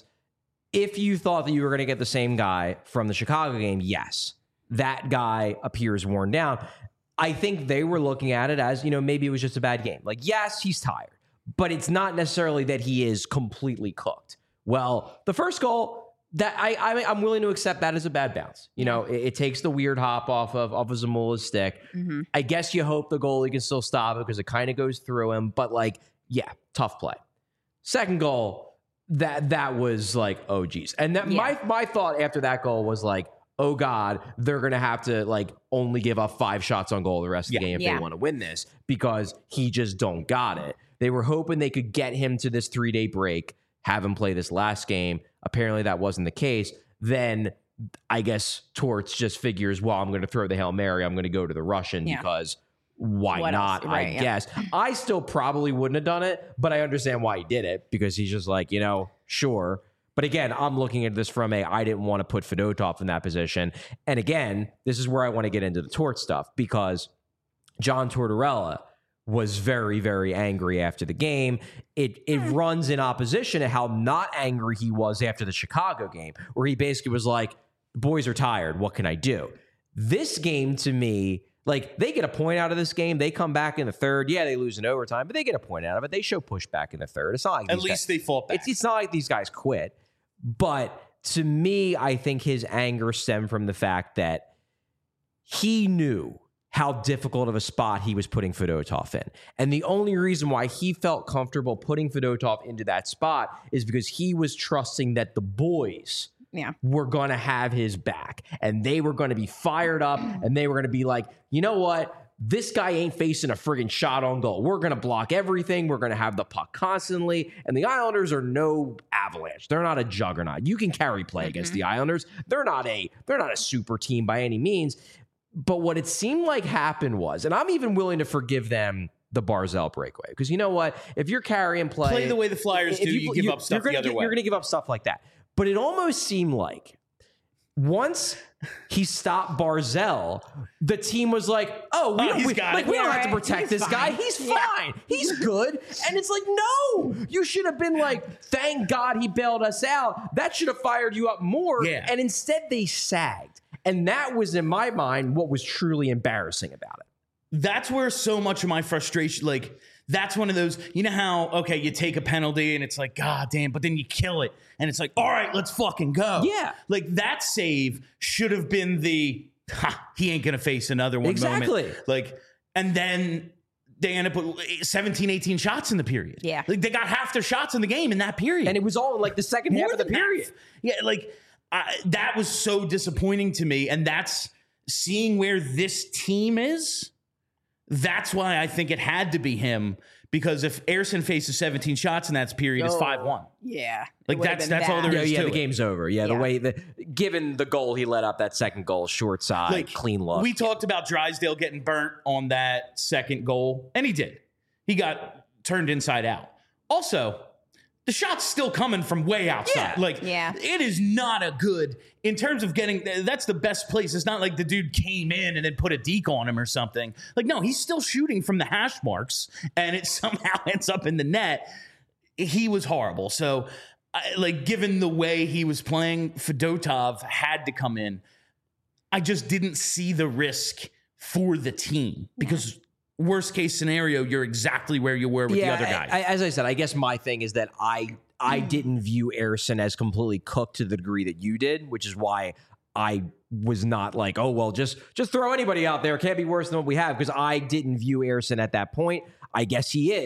if you thought that you were going to get the same guy from the Chicago game, yes, that guy appears worn down. I think they were looking at it as, you know, maybe it was just a bad game. Like, yes, he's tired, but it's not necessarily that he is completely cooked. Well, the first goal, that I, I I'm willing to accept that as a bad bounce. You know, it, it takes the weird hop off of off of Zamula's stick. Mm-hmm. I guess you hope the goalie can still stop it because it kind of goes through him. But like, yeah, tough play. Second goal, that that was like, oh geez. And that Yeah. my my thought after that goal was like, oh God, they're gonna have to like only give up five shots on goal the rest of Yeah. the game if Yeah. they want to win this because he just don't got it. They were hoping they could get him to this three day break, have him play this last game. Apparently that wasn't the case. Then I guess Torts just figures, well, I'm going to throw the Hail Mary. I'm going to go to the Russian Yeah. because why What not? else? Right, I yeah. guess. I still probably wouldn't have done it, but I understand why he did it because he's just like, you know, sure. But again, I'm looking at this from a, I didn't want to put Fedotov in that position. And again, this is where I want to get into the Torts stuff because John Tortorella was very, very angry after the game. It it runs in opposition to how not angry he was after the Chicago game, where he basically was like, the boys are tired. What can I do? This game to me, like they get a point out of this game. They come back in the third. Yeah, they lose in overtime, but they get a point out of it. They show pushback in the third. It's not like At these least guys, they fought back. it's, it's not like these guys quit. But to me, I think his anger stemmed from the fact that he knew how difficult of a spot he was putting Fedotov in. And the only reason why he felt comfortable putting Fedotov into that spot is because he was trusting that the boys Yeah. were going to have his back and they were going to be fired up and they were going to be like, you know what? This guy ain't facing a friggin' shot on goal. We're going to block everything. We're going to have the puck constantly. And the Islanders are no Avalanche. They're not a juggernaut. You can carry play against the Islanders. They're not a they're not a super team by any means. But what it seemed like happened was, and I'm even willing to forgive them the Barzal breakaway because you know what? If you're carrying play, Play the way the Flyers if do, you, give you- up stuff you're gonna the other gi- way. You're going to give up stuff like that. But it almost seemed like once he stopped Barzell, the team was like, "Oh, we Oh, don't, he's we, got like, it. we don't Yeah, have to right. protect He's this guy. fine. He's Yeah. fine. He's good." And it's like, no, you should have been like, "Thank God he bailed us out." That should have fired you up more. Yeah. And instead, they sagged, and that was in my mind what was truly embarrassing about it. That's where so much of my frustration, like, that's one of those, you know how, okay, you take a penalty and it's like, God damn, but then you kill it. And it's like, all right, let's fucking go. Yeah. Like, that save should have been the, ha, he ain't going to face another one Exactly. moment. Like, and then they end up with seventeen, eighteen shots in the period. Yeah. Like, they got half their shots in the game in that period. And it was all in like the second More half of the than half. period. Yeah, like I, that was so disappointing to me, and that's seeing where this team is. That's why I think it had to be him, because if Ersson faces seventeen shots in that period, it's Oh. five one. Yeah. Like, It would've that's- been that's all bad. there Yeah, is yeah, to the it. game's over. Yeah, the Yeah. way the given the goal he let up, that second goal, short side, Like, clean look. We talked about Drysdale getting burnt on that second goal, and he did. He got turned inside out. Also, the shot's still coming from way outside. Yeah. Like, Yeah. it is not a good, in terms of getting, that's the best place. It's not like the dude came in and then put a deke on him or something. Like, no, he's still shooting from the hash marks, and it somehow ends up in the net. He was horrible. So, I, like, given the way he was playing, Fedotov had to come in. I just didn't see the risk for the team because worst case scenario, you're exactly where you were with the other guy. I, as I said, I guess my thing is that I I didn't view Ersson as completely cooked to the degree that you did, which is why I was not like, oh well, just just throw anybody out there. It can't be worse than what we have, because I didn't view Ersson at that point. I guess he is,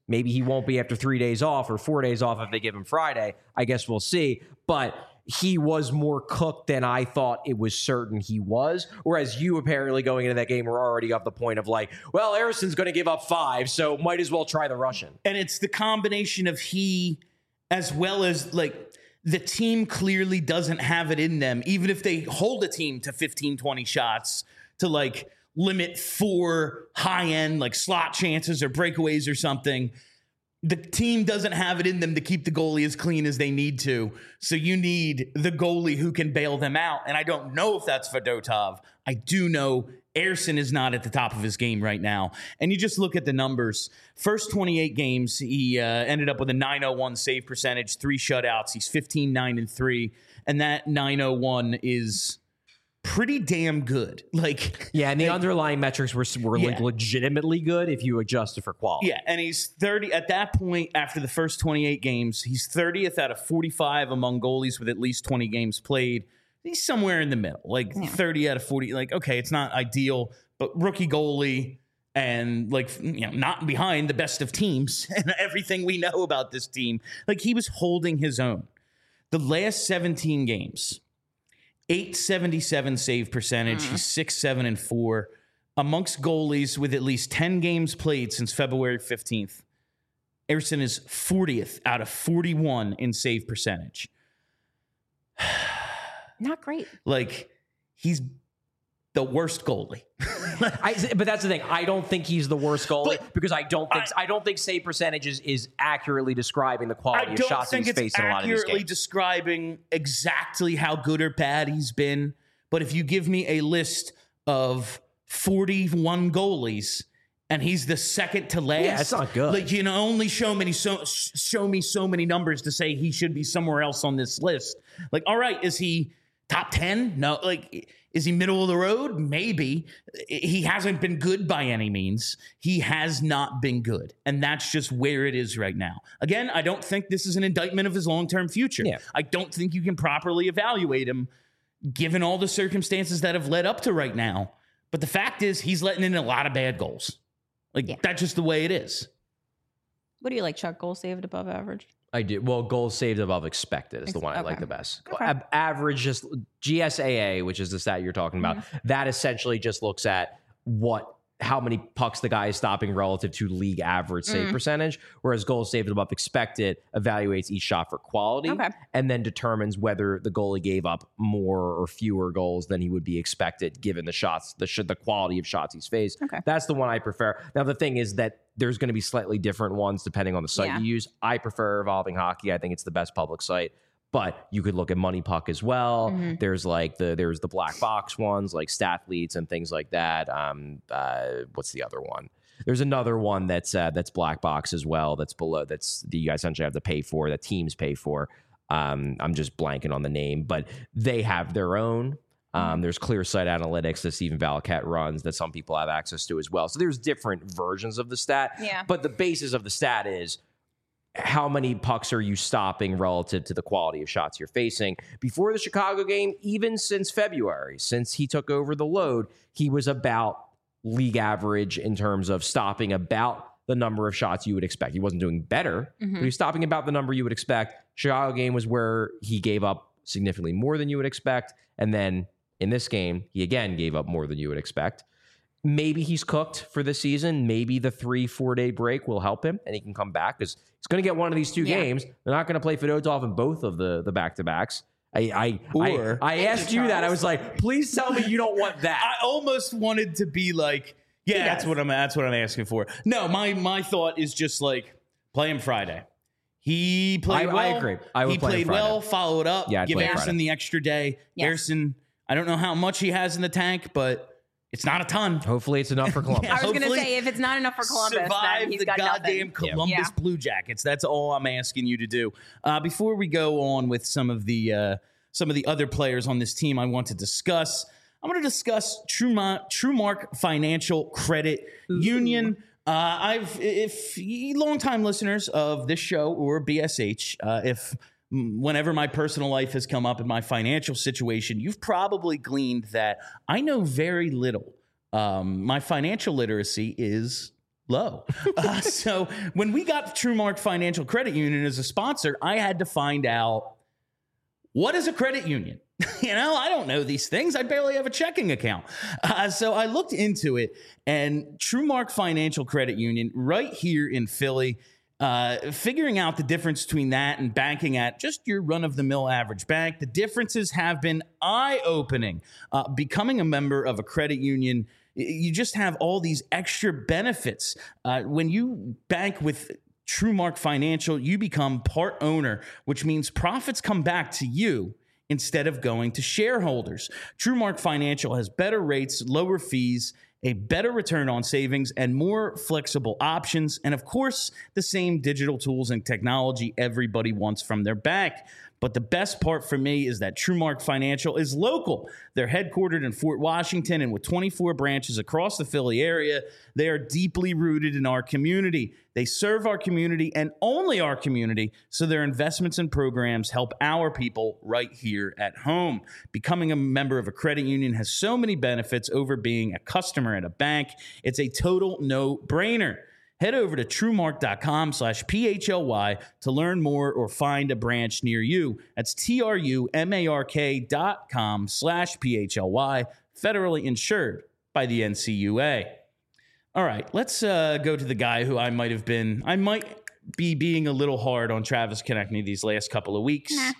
Maybe he won't be after three days off or four days off if they give him Friday. I guess we'll see. But he was more cooked than I thought it was certain he was. Whereas you apparently going into that game were already of the point of like, well, Harrison's going to give up five, so might as well try the Russian. And it's the combination of he as well as like the team clearly doesn't have it in them, even if they hold a team to fifteen, twenty shots to like limit four high end like slot chances or breakaways or something. The team doesn't have it in them to keep the goalie as clean as they need to. So you need the goalie who can bail them out. And I don't know if that's Fedotov. I do know Ersson is not at the top of his game right now. And you just look at the numbers. First twenty-eight games, he uh, ended up with a nine oh one save percentage, three shutouts. He's fifteen, nine, and three. And that nine oh one is pretty damn good. Like, yeah, and the like, underlying metrics were, were yeah. like legitimately good if you adjusted for quality. Yeah, and he's thirty at that point after the first twenty-eight games. He's thirtieth out of forty-five among goalies with at least twenty games played. He's somewhere in the middle, like yeah. thirty out of forty. Like, okay, it's not ideal, but rookie goalie and like, you know, not behind the best of teams and everything we know about this team. Like, he was holding his own. The last seventeen games, eight seventy-seven save percentage. Mm. He's six, seven, and four amongst goalies with at least ten games played since February fifteenth. Ersson is fortieth out of forty-one in save percentage. Not great. Like, he's the worst goalie. I, but that's the thing. I don't think he's the worst goalie but because I don't think I, I don't think save percentage is, is accurately describing the quality I of don't shots think he's it's faced in a lot of these accurately games. describing exactly how good or bad he's been. But if you give me a list of forty-one goalies and he's the second to last, yeah, it's not good. Like, you know, only show me so show me so many numbers to say he should be somewhere else on this list. Like, all right, is he top ten? No. Like, is he middle of the road? Maybe. He hasn't been good by any means. He has not been good. And that's just where it is right now. Again, I don't think this is an indictment of his long-term future. Yeah. I don't think you can properly evaluate him given all the circumstances that have led up to right now. But the fact is he's letting in a lot of bad goals. Like, yeah. That's just the way it is. What do you like, Chuck? Goal saved above average? I do. Well, goals saved above expected is the one I okay. like the best. Okay. A- average, just G S A A, which is the stat you're talking about, mm-hmm. that essentially just looks at what how many pucks the guy is stopping relative to league average save mm. percentage, whereas goals saved above expected evaluates each shot for quality okay. and then determines whether the goalie gave up more or fewer goals than he would be expected given the shots, the sh- the quality of shots he's faced. Okay. That's the one I prefer. Now, the thing is that there's going to be slightly different ones depending on the site yeah. you use. I prefer Evolving Hockey. I think it's the best public site. But you could look at Money Puck as well. Mm-hmm. There's like the there's the black box ones like Stathletes and things like that. Um, uh, what's the other one? There's another one that's uh, that's black box as well. That's below. That's that you essentially have to pay for. That teams pay for. Um, I'm just blanking on the name, but they have their own. Um, there's Clear Sight Analytics that Stephen Valiquette runs that some people have access to as well. So there's different versions of the stat. Yeah. But the basis of the stat is how many pucks are you stopping relative to the quality of shots you're facing? Before the Chicago game, even since February, since he took over the load, he was about league average in terms of stopping about the number of shots you would expect. He wasn't doing better, mm-hmm. but he was stopping about the number you would expect. Chicago game was where he gave up significantly more than you would expect. And then in this game, he again gave up more than you would expect. Maybe he's cooked for this season. Maybe the three, four day break will help him and he can come back because he's going to get one of these two yeah. games. They're not going to play Fedotov in both of the, the back-to-backs. I I, or, I, I asked you that. I was like, please tell me you don't want that. I almost wanted to be like, yeah, yes. that's what I'm that's what I'm asking for. No, my my thought is just like play him Friday. He played I, well. I agree. I would he play played well, follow it up. Yeah, give Ersson the extra day. Yes. Ersson, I don't know how much he has in the tank, but it's not a ton. Hopefully it's enough for Columbus. I was going to say, if it's not enough for Columbus, survive then he's the got goddamn nothing. Columbus yeah. Blue Jackets. That's all I'm asking you to do. Uh, before we go on with some of the uh, some of the other players on this team, I want to discuss. I'm going to discuss Trumont, TrueMark Financial Credit Ooh. Union. Uh, I've if longtime listeners of this show or B S H, uh, if whenever my personal life has come up in my financial situation, you've probably gleaned that I know very little. Um, my financial literacy is low. uh, so when we got TrueMark Financial Credit Union as a sponsor, I had to find out, what is a credit union? You know, I don't know these things. I barely have a checking account. Uh, so I looked into it, and TrueMark Financial Credit Union right here in Philly, uh, figuring out the difference between that and banking at just your run-of-the-mill average bank. The differences have been eye-opening. Uh, becoming a member of a credit union, you just have all these extra benefits. Uh, when you bank with TrueMark Financial, you become part owner, which means profits come back to you instead of going to shareholders. TrueMark Financial has better rates, lower fees, a better return on savings, and more flexible options. And of course, the same digital tools and technology everybody wants from their bank. But the best part for me is that TrueMark Financial is local. They're headquartered in Fort Washington, and with twenty-four branches across the Philly area, they are deeply rooted in our community. They serve our community and only our community, so their investments and programs help our people right here at home. Becoming a member of a credit union has so many benefits over being a customer at a bank. It's a total no-brainer. Head over to TrueMark.com slash P-H-L-Y to learn more or find a branch near you. That's T-R-U-M-A-R-K dot com slash P-H-L-Y, federally insured by the N C U A. All right, let's uh, go to the guy who I might have been, I might be being a little hard on Travis Konecny these last couple of weeks. Nah.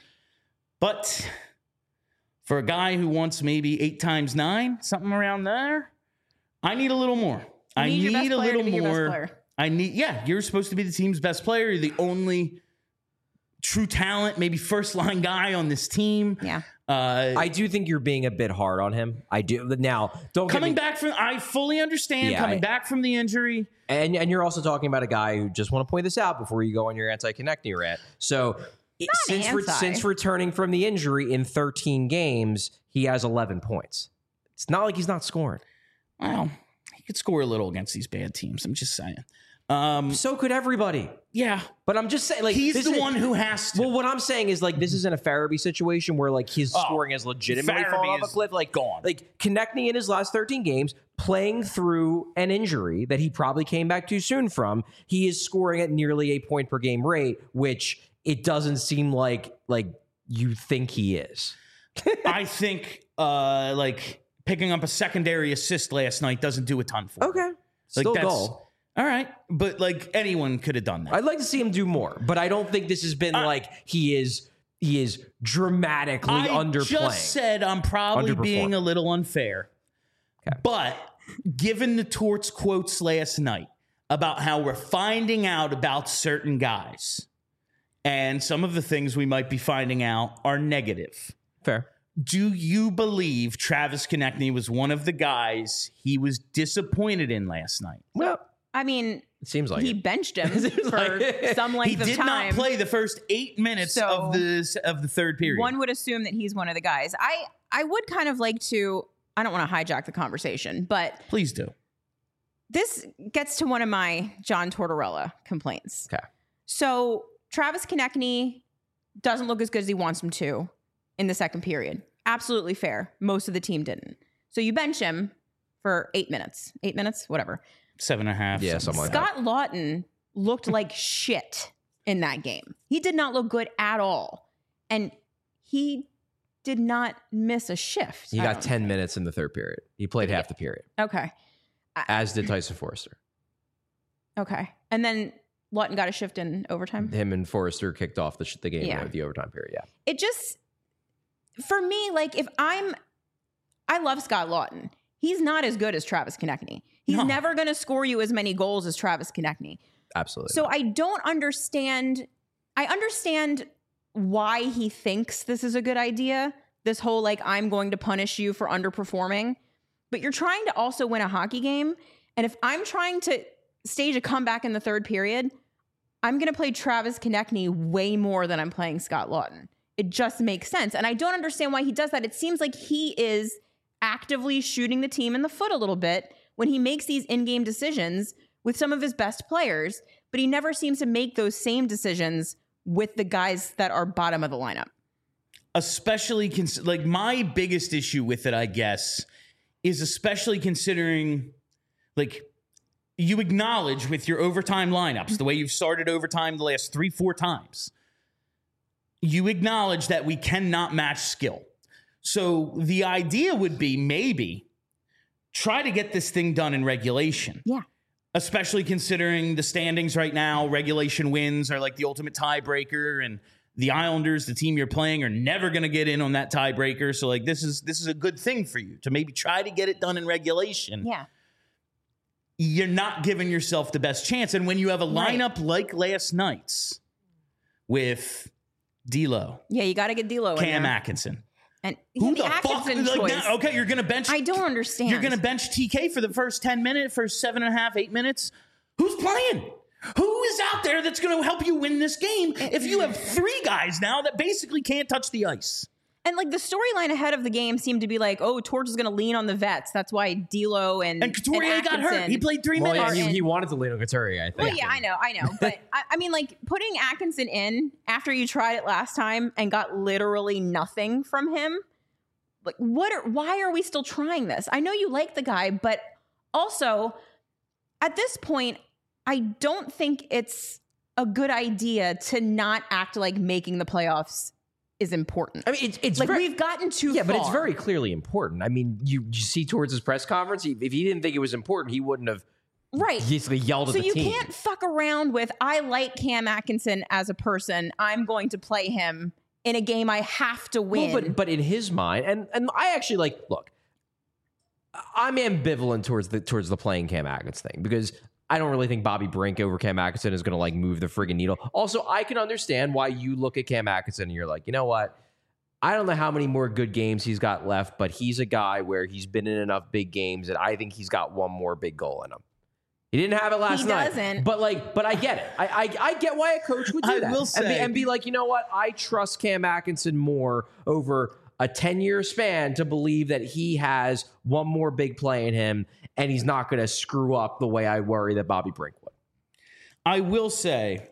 But for a guy who wants maybe eight times nine, something around there, I need a little more. You I need, need, your best a player to little be your best more. player. I need, yeah, you're supposed to be the team's best player. You're the only true talent, maybe first line guy on this team. Yeah. Uh, I do think you're being a bit hard on him. I do. Now, don't get coming me, back from, I fully understand Yeah, coming I- back from the injury. and and you're also talking about a guy who just want to point this out before you go on your anti-Konecny rant. So it- since re- anti. since returning from the injury in thirteen games, he has eleven points. It's not like he's not scoring. Well, he could score a little against these bad teams. I'm just saying. Um, So could everybody. yeah, But I'm just saying, like he's this the is- one who has to. Well, what I'm saying is like this isn't a Farabee situation where like his Oh, scoring has legitimately Farabee fallen off a is cliff. Like gone. like Konecny in his last thirteen games, playing through an injury that he probably came back too soon from, he is scoring at nearly a point per game rate, which it doesn't seem like like you think he is. I think uh, like picking up a secondary assist last night doesn't do a ton for him. Okay, Like still that's goal. all right, but like anyone could have done that. I'd like to see him do more, but I don't think this has been I- like he is he is dramatically I underplaying. just said I'm probably Underperform. being a little unfair. Okay. But given the Torts quotes last night about how we're finding out about certain guys, and some of the things we might be finding out are negative. Fair. Do you believe Travis Konecny was one of the guys he was disappointed in last night? Well, I mean, it seems like he it. benched him Seems for like- some length He of did time. not play the first eight minutes So, of the of the third period. One would assume that he's one of the guys. I I would kind of like to. I don't want to hijack the conversation, but Please do. this gets to one of my John Tortorella complaints. Okay. So Travis Konecny doesn't look as good as he wants him to in the second period. Absolutely fair. Most of the team didn't. So you bench him for eight minutes, eight minutes, whatever. Seven and a half. Yeah, something like that. Scott Lawton looked like shit in that game. He did not look good at all. And he did not miss a shift. He I got don't ten think. minutes in the third period. He played half the period, Okay. as did Tyson Forrester. Okay. And then Lawton got a shift in overtime. Him and Forrester kicked off the, sh- the game Yeah. with the overtime period. Yeah. It just, for me, like if I'm, I love Scott Lawton. He's not as good as Travis Konecny. He's No. never going to score you as many goals as Travis Konecny. Absolutely. So I don't understand. I understand why he thinks this is a good idea. This whole like, I'm going to punish you for underperforming. But you're trying to also win a hockey game. And if I'm trying to stage a comeback in the third period, I'm going to play Travis Konecny way more than I'm playing Scott Lawton. It just makes sense. And I don't understand why he does that. It seems like he is actively shooting the team in the foot a little bit when he makes these in-game decisions with some of his best players, but he never seems to make those same decisions with the guys that are bottom of the lineup. Especially, cons- like my biggest issue with it, I guess, is especially considering, like, you acknowledge with your overtime lineups, the way you've started overtime the last three, four times, you acknowledge that we cannot match skill. So the idea would be maybe try to get this thing done in regulation. Yeah. Especially considering the standings right now, regulation wins are like the ultimate tiebreaker, and the Islanders, the team you're playing, are never going to get in on that tiebreaker. So like this is this is a good thing for you to maybe try to get it done in regulation. Yeah. You're not giving yourself the best chance. And when you have a Right. lineup like last night's with D'Lo, Yeah, you got to get D'Lo in Cam there. Atkinson. And Who yeah, the fuck? Atkinson Like, choice. now- okay, you're going to bench. I don't understand. You're going to bench T K for the first ten minutes, first seven and a half, eight minutes. Who's playing? Who is out there that's going to help you win this game if you have three guys now that basically can't touch the ice? And like the storyline ahead of the game seemed to be like, oh, Torch is going to lean on the vets. That's why D'Lo and And Couturier got hurt. Atkinson- He played three Well, yeah, minutes. he, he wanted to lean on Couturier, I think. Well, yeah, I know, I know. But I, I mean, like putting Atkinson in after you tried it last time and got literally nothing from him. Like, what? Are, why are we still trying this? I know you like the guy, but also at this point, I don't think it's a good idea to not act like making the playoffs is important. I mean, it's, it's like very, we've gotten too yeah, far. but it's very clearly important. I mean, you, you see towards his press conference, he, if he didn't think it was important, he wouldn't have right. basically yelled So at the you team. can't fuck around with, I like Cam Atkinson as a person. I'm going to play him in a game I have to win. Well, but but in his mind, and and I actually like look, I'm ambivalent towards the towards the playing Cam Atkinson thing because I don't really think Bobby Brink over Cam Atkinson is going to like move the friggin' needle. Also, I can understand why you look at Cam Atkinson and you're like, you know what? I don't know how many more good games he's got left, but he's a guy where he's been in enough big games that I think he's got one more big goal in him. He didn't have it last He night. doesn't. But like, but I get it. I, I I get why a coach would do I that. will and, say- be, and be like, you know what? I trust Cam Atkinson more over a ten-year span to believe that he has one more big play in him and he's not going to screw up the way I worry that Bobby Brink would. I will say,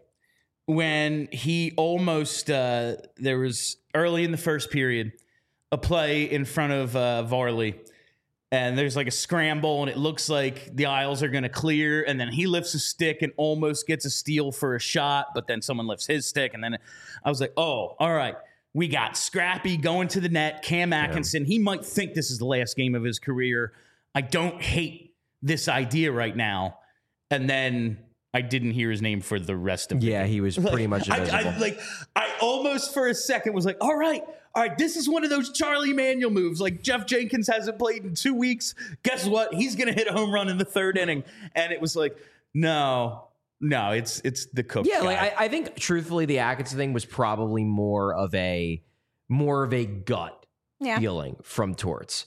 when he almost, uh, there was early in the first period, a play in front of uh, Varley, and there's like a scramble, and it looks like the Isles are going to clear, and then he lifts a stick and almost gets a steal for a shot, but then someone lifts his stick, and then I was like, oh, all right. We got Scrappy going to the net, Cam Atkinson. He might think this is the last game of his career. I don't hate this idea right now. And then I didn't hear his name for the rest of the Yeah, game. he was pretty much I, invisible. I, like, I almost for a second was like, all right, all right, this is one of those Charlie Manuel moves. Like Jeff Jenkins hasn't played in two weeks. Guess what? He's going to hit a home run in the third inning. And it was like, no, no, it's it's the coach. Yeah, guy. like I, I think truthfully, the Atkinson thing was probably more of a more of a gut yeah. feeling from Torts,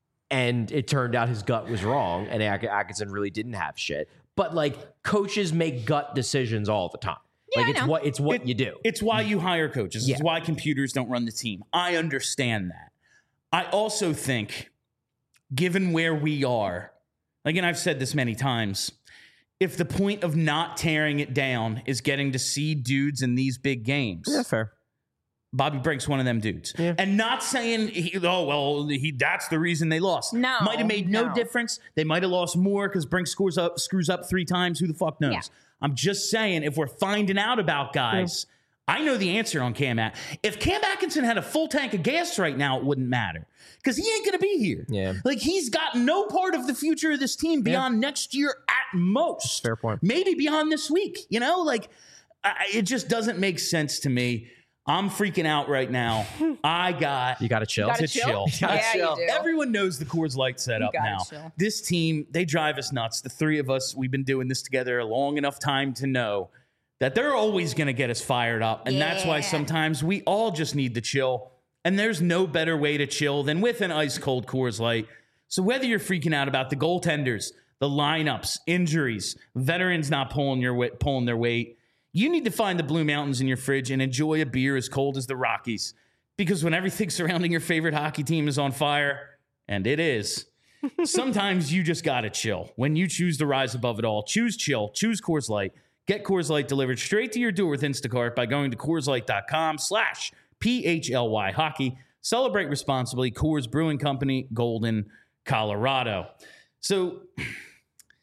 and it turned out his gut was wrong, and At- Atkinson really didn't have shit. But like coaches make gut decisions all the time. Yeah, like I it's know. what it's what It- you do. It's why you hire coaches. It's Yeah. why computers don't run the team. I understand that. I also think, given where we are, like, and I've said this many times, if the point of not tearing it down is getting to see dudes in these big games, fair. Bobby Brink's one of them dudes. Yeah. And not saying, he, oh, well, he that's the reason they lost. No, Might have made no, no. difference. They might have lost more because Brink screws up, screws up three times. Who the fuck knows? Yeah. I'm just saying, if we're finding out about guys, I know the answer on Cam At. If Cam Atkinson had a full tank of gas right now, it wouldn't matter because he ain't going to be here. Yeah. Like, he's got no part of the future of this team beyond next year at most. Fair point. Maybe beyond this week. You know, like, I, it just doesn't make sense to me. I'm freaking out right now. I got You got to chill. Gotta to chill? chill. Yeah, To chill. you do. Everyone knows the Coors Light setup gotta now. chill. This team, they drive us nuts. The three of us, we've been doing this together a long enough time to know that they're always going to get us fired up. And that's why Yeah. sometimes we all just need to chill. And there's no better way to chill than with an ice cold Coors Light. So whether you're freaking out about the goaltenders, the lineups, injuries, veterans not pulling your weight, pulling their weight, you need to find the Blue Mountains in your fridge and enjoy a beer as cold as the Rockies. Because when everything surrounding your favorite hockey team is on fire, and it is, sometimes you just got to chill. When you choose to rise above it all, choose chill, choose Coors Light. Get Coors Light delivered straight to your door with Instacart by going to CoorsLight.com slash P-H-L-Y hockey. Celebrate responsibly. Coors Brewing Company, Golden, Colorado. So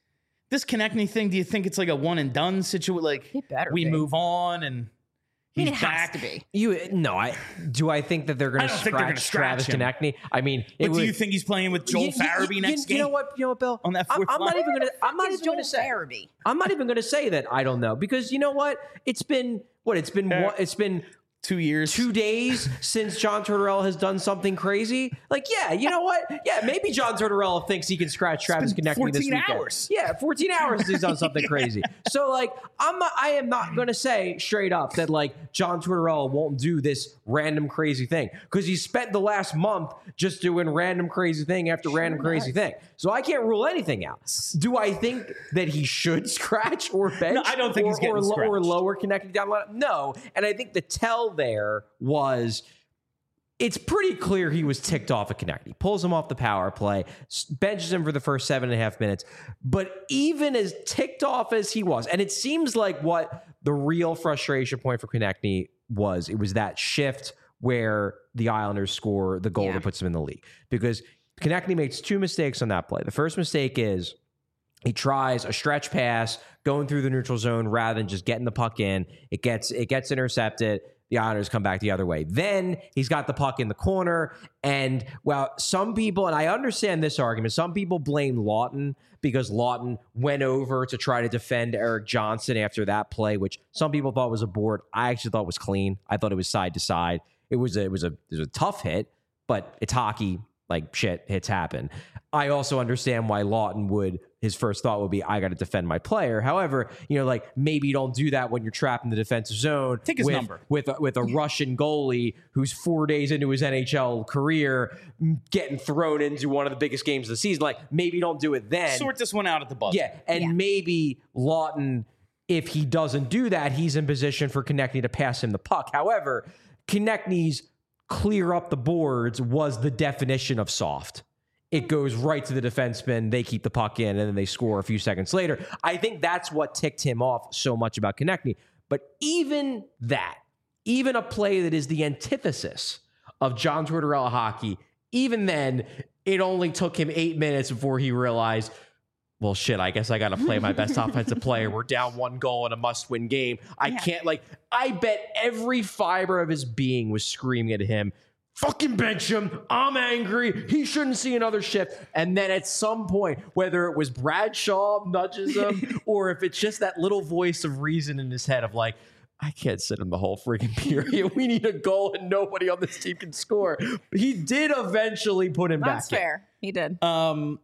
this Konechny thing, do you think it's like a one and done situation? Like It better we be. move on and I mean, he's it has back. to be. You no, I do. I think that they're going I to don't think they're gonna scratch Travis scratch him. Konechny. I mean, it But would, do you think he's playing with Joel you- you- Farabee you- next you game? know what? You know what, Bill? On that I'm, fourth I'm not line? even going to. I'm not Is even going to Joel say. Farabee? I'm not even going to say that I don't know because you know what? It's been what? It's been Yeah. one, it's been Two years. two days since John Tortorella has done something crazy. Like, yeah, you know what? Yeah, maybe John Tortorella thinks he can scratch Travis been Konechny this fourteen weekend. hours. Yeah, fourteen hours he's done something crazy. So, like, I'm not, I am not going to say straight up that like John Tortorella won't do this random crazy thing because he spent the last month just doing random crazy thing after random crazy thing. So I can't rule anything out. Do I think that he should scratch or bench? No, I don't think or, he's getting or, lo- or scratched. lower Konechny down the line? No, and I think the tell there was it's pretty clear he was ticked off at Konechny. Pulls him off the power play, s- benches him for the first seven and a half minutes. But even as ticked off as he was, and it seems like what the real frustration point for Konechny was, it was that shift where the Islanders score the goal Yeah. that puts them in the league. Because Konechny makes two mistakes on that play. The first mistake is he tries a stretch pass going through the neutral zone rather than just getting the puck in. It gets it gets intercepted. The Islanders come back the other way. Then he's got the puck in the corner. And well, some people, and I understand this argument, some people blame Lawton because Lawton went over to try to defend Eric Johnson after that play, which some people thought was a board. I actually thought was clean. I thought it was side to side. It was a, it was a, it was a tough hit, but it's hockey. Like shit, hits happen. I also understand why Lawton would, his first thought would be, I got to defend my player. However, you know, like maybe you don't do that when you're trapped in the defensive zone. Take his with, number. with a, with a Russian goalie who's four days into his N H L career getting thrown into one of the biggest games of the season. Like maybe you don't do it then. Sort this one out at the buzzer. Yeah, and Yeah. maybe Lawton, if he doesn't do that, he's in position for Konechny to pass him the puck. However, Konechny's clear up the boards was the definition of soft. It goes right to the defenseman. They keep the puck in, and then they score a few seconds later. I think that's what ticked him off so much about Konechny. But even that, even a play that is the antithesis of John Tortorella hockey, even then, it only took him eight minutes before he realized, well, shit, I guess I got to play my best offensive player. We're down one goal in a must-win game. I Yeah. can't, like, I bet every fiber of his being was screaming at him, fucking bench him. I'm angry. He shouldn't see another shift. And then at some point, whether it was Bradshaw nudges him or if it's just that little voice of reason in his head of like, I can't sit in the whole freaking period. We need a goal and nobody on this team can score. He did eventually put him That's back in. fair. He did. Um,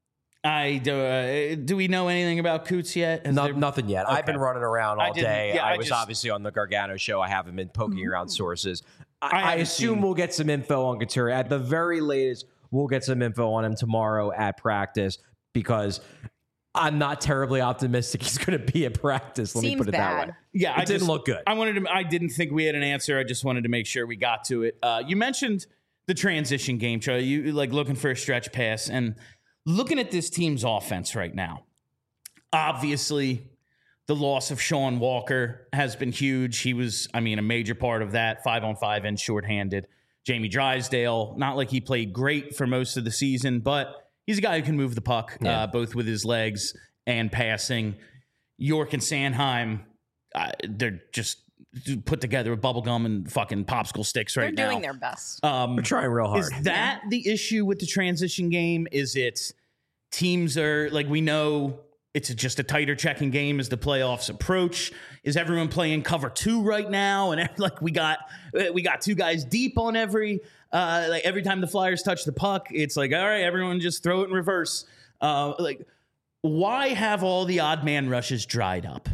I do. Uh, do we know anything about Coots yet? Has No, there- nothing yet. I've been Okay. running around all I didn't- day. yeah, I, I was just- obviously on the Gargano show. I haven't been poking around sources. I, I I, haven't assume seen- we'll get some info on Couturier. At the very latest, we'll get some info on him tomorrow at practice because I'm not terribly optimistic he's going to be at practice. Let me Seems put it that bad. way. Yeah, It I didn't just- look good. I wanted to. I didn't think we had an answer. I just wanted to make sure we got to it. Uh, you mentioned the transition game, Charlie. You like looking for a stretch pass and looking at this team's offense right now. Obviously, the loss of Sean Walker has been huge. He was, I mean, a major part of that, five on five and shorthanded. Jamie Drysdale, not like he played great for most of the season, but he's a guy who can move the puck, Yeah. uh, both with his legs and passing. York and Sanheim, uh, they're just put together with bubblegum and fucking popsicle sticks right They're now. doing their best. Um, We're trying real hard. is that the issue with the transition game? Is it teams are like, we know it's just a tighter checking game as the playoffs approach? Is everyone playing cover two right now? And like we got we got two guys deep on every uh, like every time the Flyers touch the puck, it's like, all right, everyone just throw it in reverse. Uh, like, why have all the odd man rushes dried up?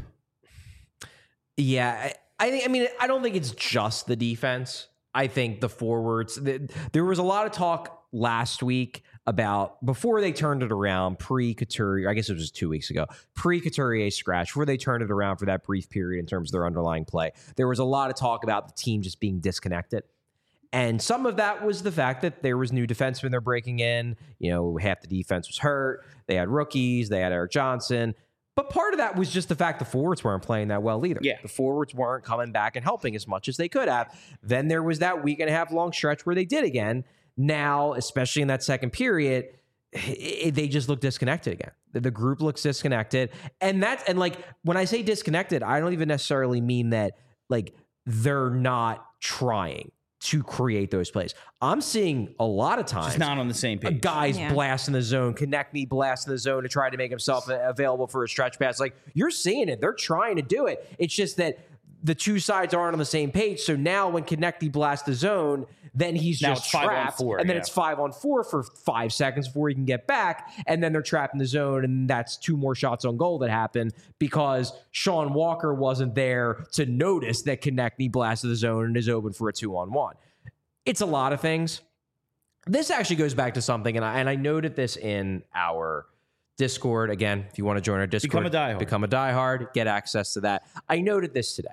Yeah, I, I think. I mean, I don't think it's just the defense. I think the forwards. The, there was a lot of talk last week about before they turned it around, pre-Couturier. I guess it was just two weeks ago, pre-Couturier scratch, before they turned it around for that brief period in terms of their underlying play. There was a lot of talk about the team just being disconnected. And some of that was the fact that there was new defensemen they're breaking in. You know, half the defense was hurt. They had rookies. They had Eric Johnson. But part of that was just the fact the forwards weren't playing that well either. Yeah. The forwards weren't coming back and helping as much as they could have. Then there was that week and a half long stretch where they did again. Now, especially in that second period, it, they just look disconnected again. The, the group looks disconnected. And that's, and like, when I say disconnected, I don't even necessarily mean that like they're not trying to create those plays. I'm seeing a lot of times Just not on the same page. guys Yeah. blast in the zone, connect me blast in the zone to try to make himself available for a stretch pass. Like, you're seeing it. They're trying to do it. It's just that the two sides aren't on the same page. So now when Konechny blasts the zone, then he's Now just it's five on trapped. four, and then yeah. it's five on four for five seconds before he can get back. And then they're trapped in the zone. And that's two more shots on goal that happen because Sean Walker wasn't there to notice that Konechny blasted the zone and is open for a two on one. It's a lot of things. This actually goes back to something, and I, and I noted this in our Discord. Again, if you want to join our Discord, Become a diehard. Become a diehard, get access to that. I noted this today.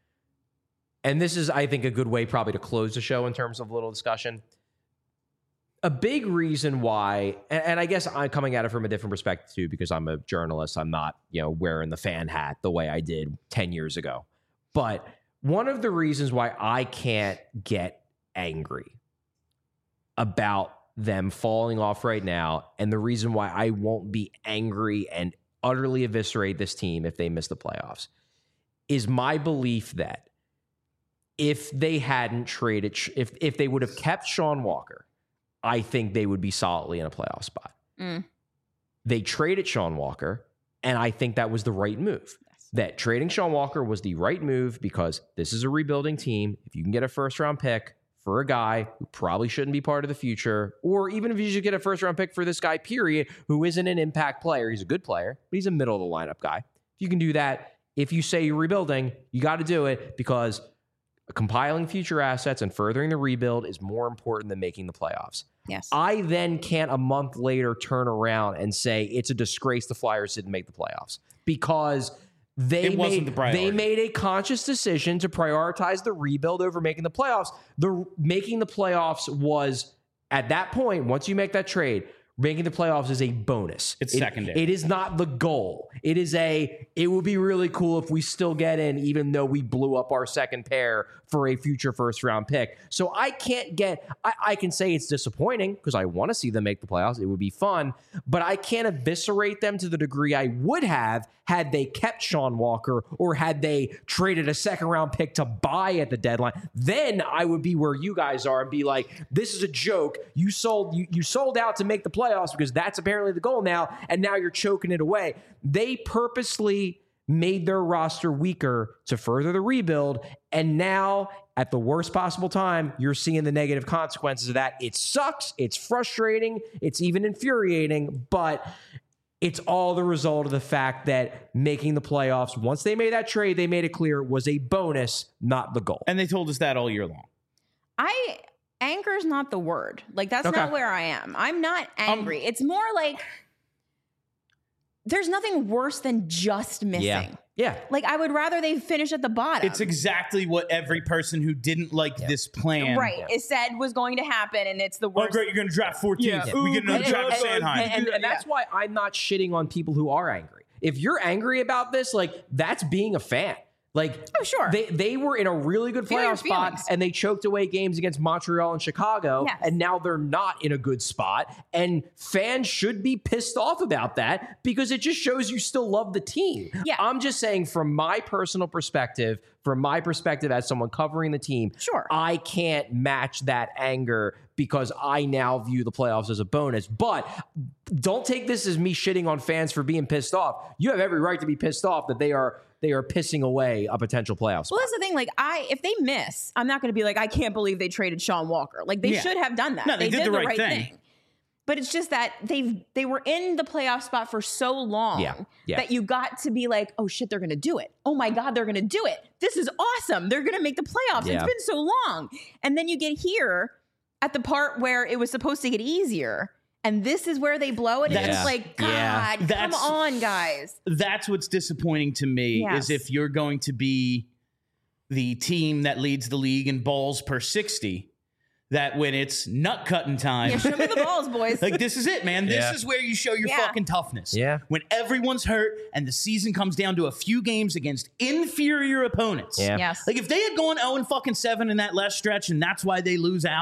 And this is, I think, a good way probably to close the show in terms of a little discussion. A big reason why, and, and I guess I'm coming at it from a different perspective too, because I'm a journalist. I'm not, you know, wearing the fan hat the way I did ten years ago. But one of the reasons why I can't get angry about them falling off right now, and the reason why I won't be angry and utterly eviscerate this team if they miss the playoffs, is my belief that if they hadn't traded, if if they would have kept Sean Walker, I think they would be solidly in a playoff spot. Mm. They traded Sean Walker, and I think that was the right move. That trading Sean Walker was the right move because this is a rebuilding team. If you can get a first round pick for a guy who probably shouldn't be part of the future, or even if you should get a first round pick for this guy, period, who isn't an impact player, he's a good player, but he's a middle of the lineup guy. If you can do that, if you say you're rebuilding, you got to do it because compiling future assets and furthering the rebuild is more important than making the playoffs. Yes. I then can't a month later turn around and say it's a disgrace the Flyers didn't make the playoffs because they It wasn't made, the priority. they made a conscious decision to prioritize the rebuild over making the playoffs. The making the playoffs was at that point, once you make that trade, making the playoffs is a bonus. It's It- secondary. It is not the goal. It is a, it would be really cool if we still get in, even though we blew up our second pair for a future first round pick. So I can't get, I, I can say it's disappointing because I want to see them make the playoffs. It would be fun, but I can't eviscerate them to the degree I would have had they kept Sean Walker or had they traded a second round pick to buy at the deadline. Then I would be where you guys are and be like, this is a joke. You sold, you, you sold out to make the playoffs because that's apparently the goal now. And now you're choking it away. They purposely made their roster weaker to further the rebuild. And now at the worst possible time, you're seeing the negative consequences of that. It sucks. It's frustrating. It's even infuriating, but it's all the result of the fact that making the playoffs, once they made that trade, they made it clear was a bonus, not the goal. And they told us that all year long. I anger is not the word. Like that's Okay. not where I am. I'm not angry. it's more like there's nothing worse than just missing. Yeah. Yeah. Like I would rather they finish at the bottom. It's exactly what every person who didn't like this plan. right. It said was going to happen, and it's the Oh, worst. great, you're going to draft fourteenth. Yeah. We get another And- Travis and- Sanheim. And, and- and that's why I'm not shitting on people who are angry. If you're angry about this, like that's being a fan. Like, Oh, sure. they they were in a really good Feel your playoff spot, feelings. and they choked away games against Montreal and Chicago, Yes. and now they're not in a good spot. And fans should be pissed off about that because it just shows you still love the team. Yeah. I'm just saying, from my personal perspective, from my perspective as someone covering the team, Sure. I can't match that anger because I now view the playoffs as a bonus. But don't take this as me shitting on fans for being pissed off. You have every right to be pissed off that they are they are pissing away a potential playoff spot. Well, that's the thing. Like, I if they miss, I'm not going to be like, I can't believe they traded Sean Walker. Like, they Yeah. should have done that. No, they did the right thing. But it's just that they they were in the playoff spot for so long Yeah, yeah. that you got to be like, oh shit, they're going to do it. Oh my god, they're going to do it. This is awesome. They're going to make the playoffs. Yeah. It's been so long, and then you get here at the part where it was supposed to get easier. And this is where they blow it. And it's That's- just like, God, yeah. come That's- on, guys. That's what's disappointing to me Yes. is if you're going to be the team that leads the league in balls per sixty, that when it's nut cutting time, Yeah, show me the balls, boys. like this is it, man. This Yeah. is where you show your Yeah. fucking toughness. Yeah. When everyone's hurt and the season comes down to a few games against inferior opponents. Yeah. Yes. Like if they had gone oh and fucking seven in that last stretch and that's why they lose out,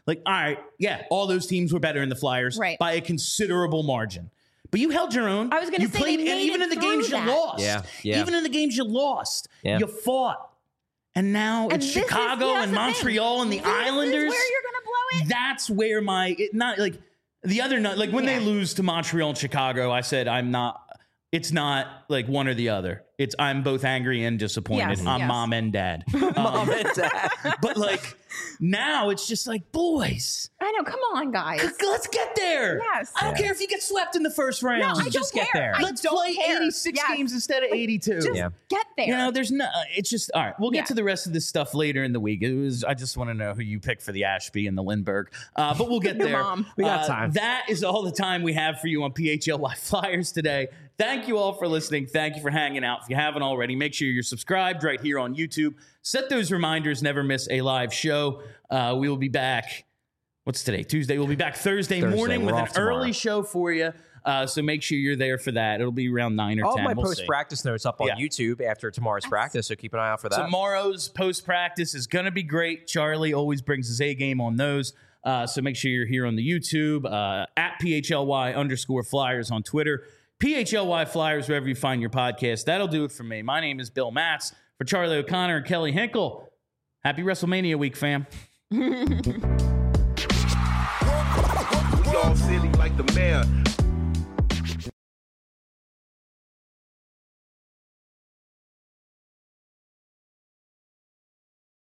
Like, all right, yeah, all those teams were better than the Flyers Right. by a considerable margin. But you held your own. I was gonna you say, played, they and made even it in the through games that. you lost. Yeah, yeah. Even in the games you lost, Yeah. you fought. And now And it's this is- Chicago here's and the thing. Montreal and the This Islanders. is where you're gonna blow it. That's where my it, not like the other night, like when Yeah. they lose to Montreal and Chicago, I said I'm not. It's not like one or the other. It's I'm both angry and disappointed. Yes, I'm yes. mom and dad. Um, but like now, it's just like boys. I know. Come on, guys. Let's get there. Yes. I don't Yeah. care if you get swept in the first round. No, I don't Just get care. there. I Let's don't play care. eighty-six Yes. games instead of eighty-two. Just Yeah. get there. You know, there's no. It's just all right. We'll get Yeah. to the rest of this stuff later in the week. It was. I just want to know who you pick for the Ashby and the Lindbergh. Uh, but we'll get Your there. mom. We got Uh, time. That is all the time we have for you on P H L Y Flyers today. Thank you all for listening. Thank you for hanging out. If you haven't already, make sure you're subscribed right here on YouTube. Set those reminders. Never miss a live show. Uh, we will be back. What's today? Tuesday. We'll be back Thursday, Thursday. morning We're with off an tomorrow. early show for you. Uh, so make sure you're there for that. It'll be around nine or All ten. my We'll post see. practice notes up on Yeah. YouTube after tomorrow's practice, so keep an eye out for that. Tomorrow's post practice is going to be great. Charlie always brings his A game on those. Uh, so make sure you're here on the YouTube, uh, at P H L Y underscore Flyers on Twitter, P H L Y Flyers wherever you find your podcast. That'll do it for me. My name is Bill Matz. For Charlie O'Connor and Kelly Hinkle, happy WrestleMania week, fam. We all silly like the mayor.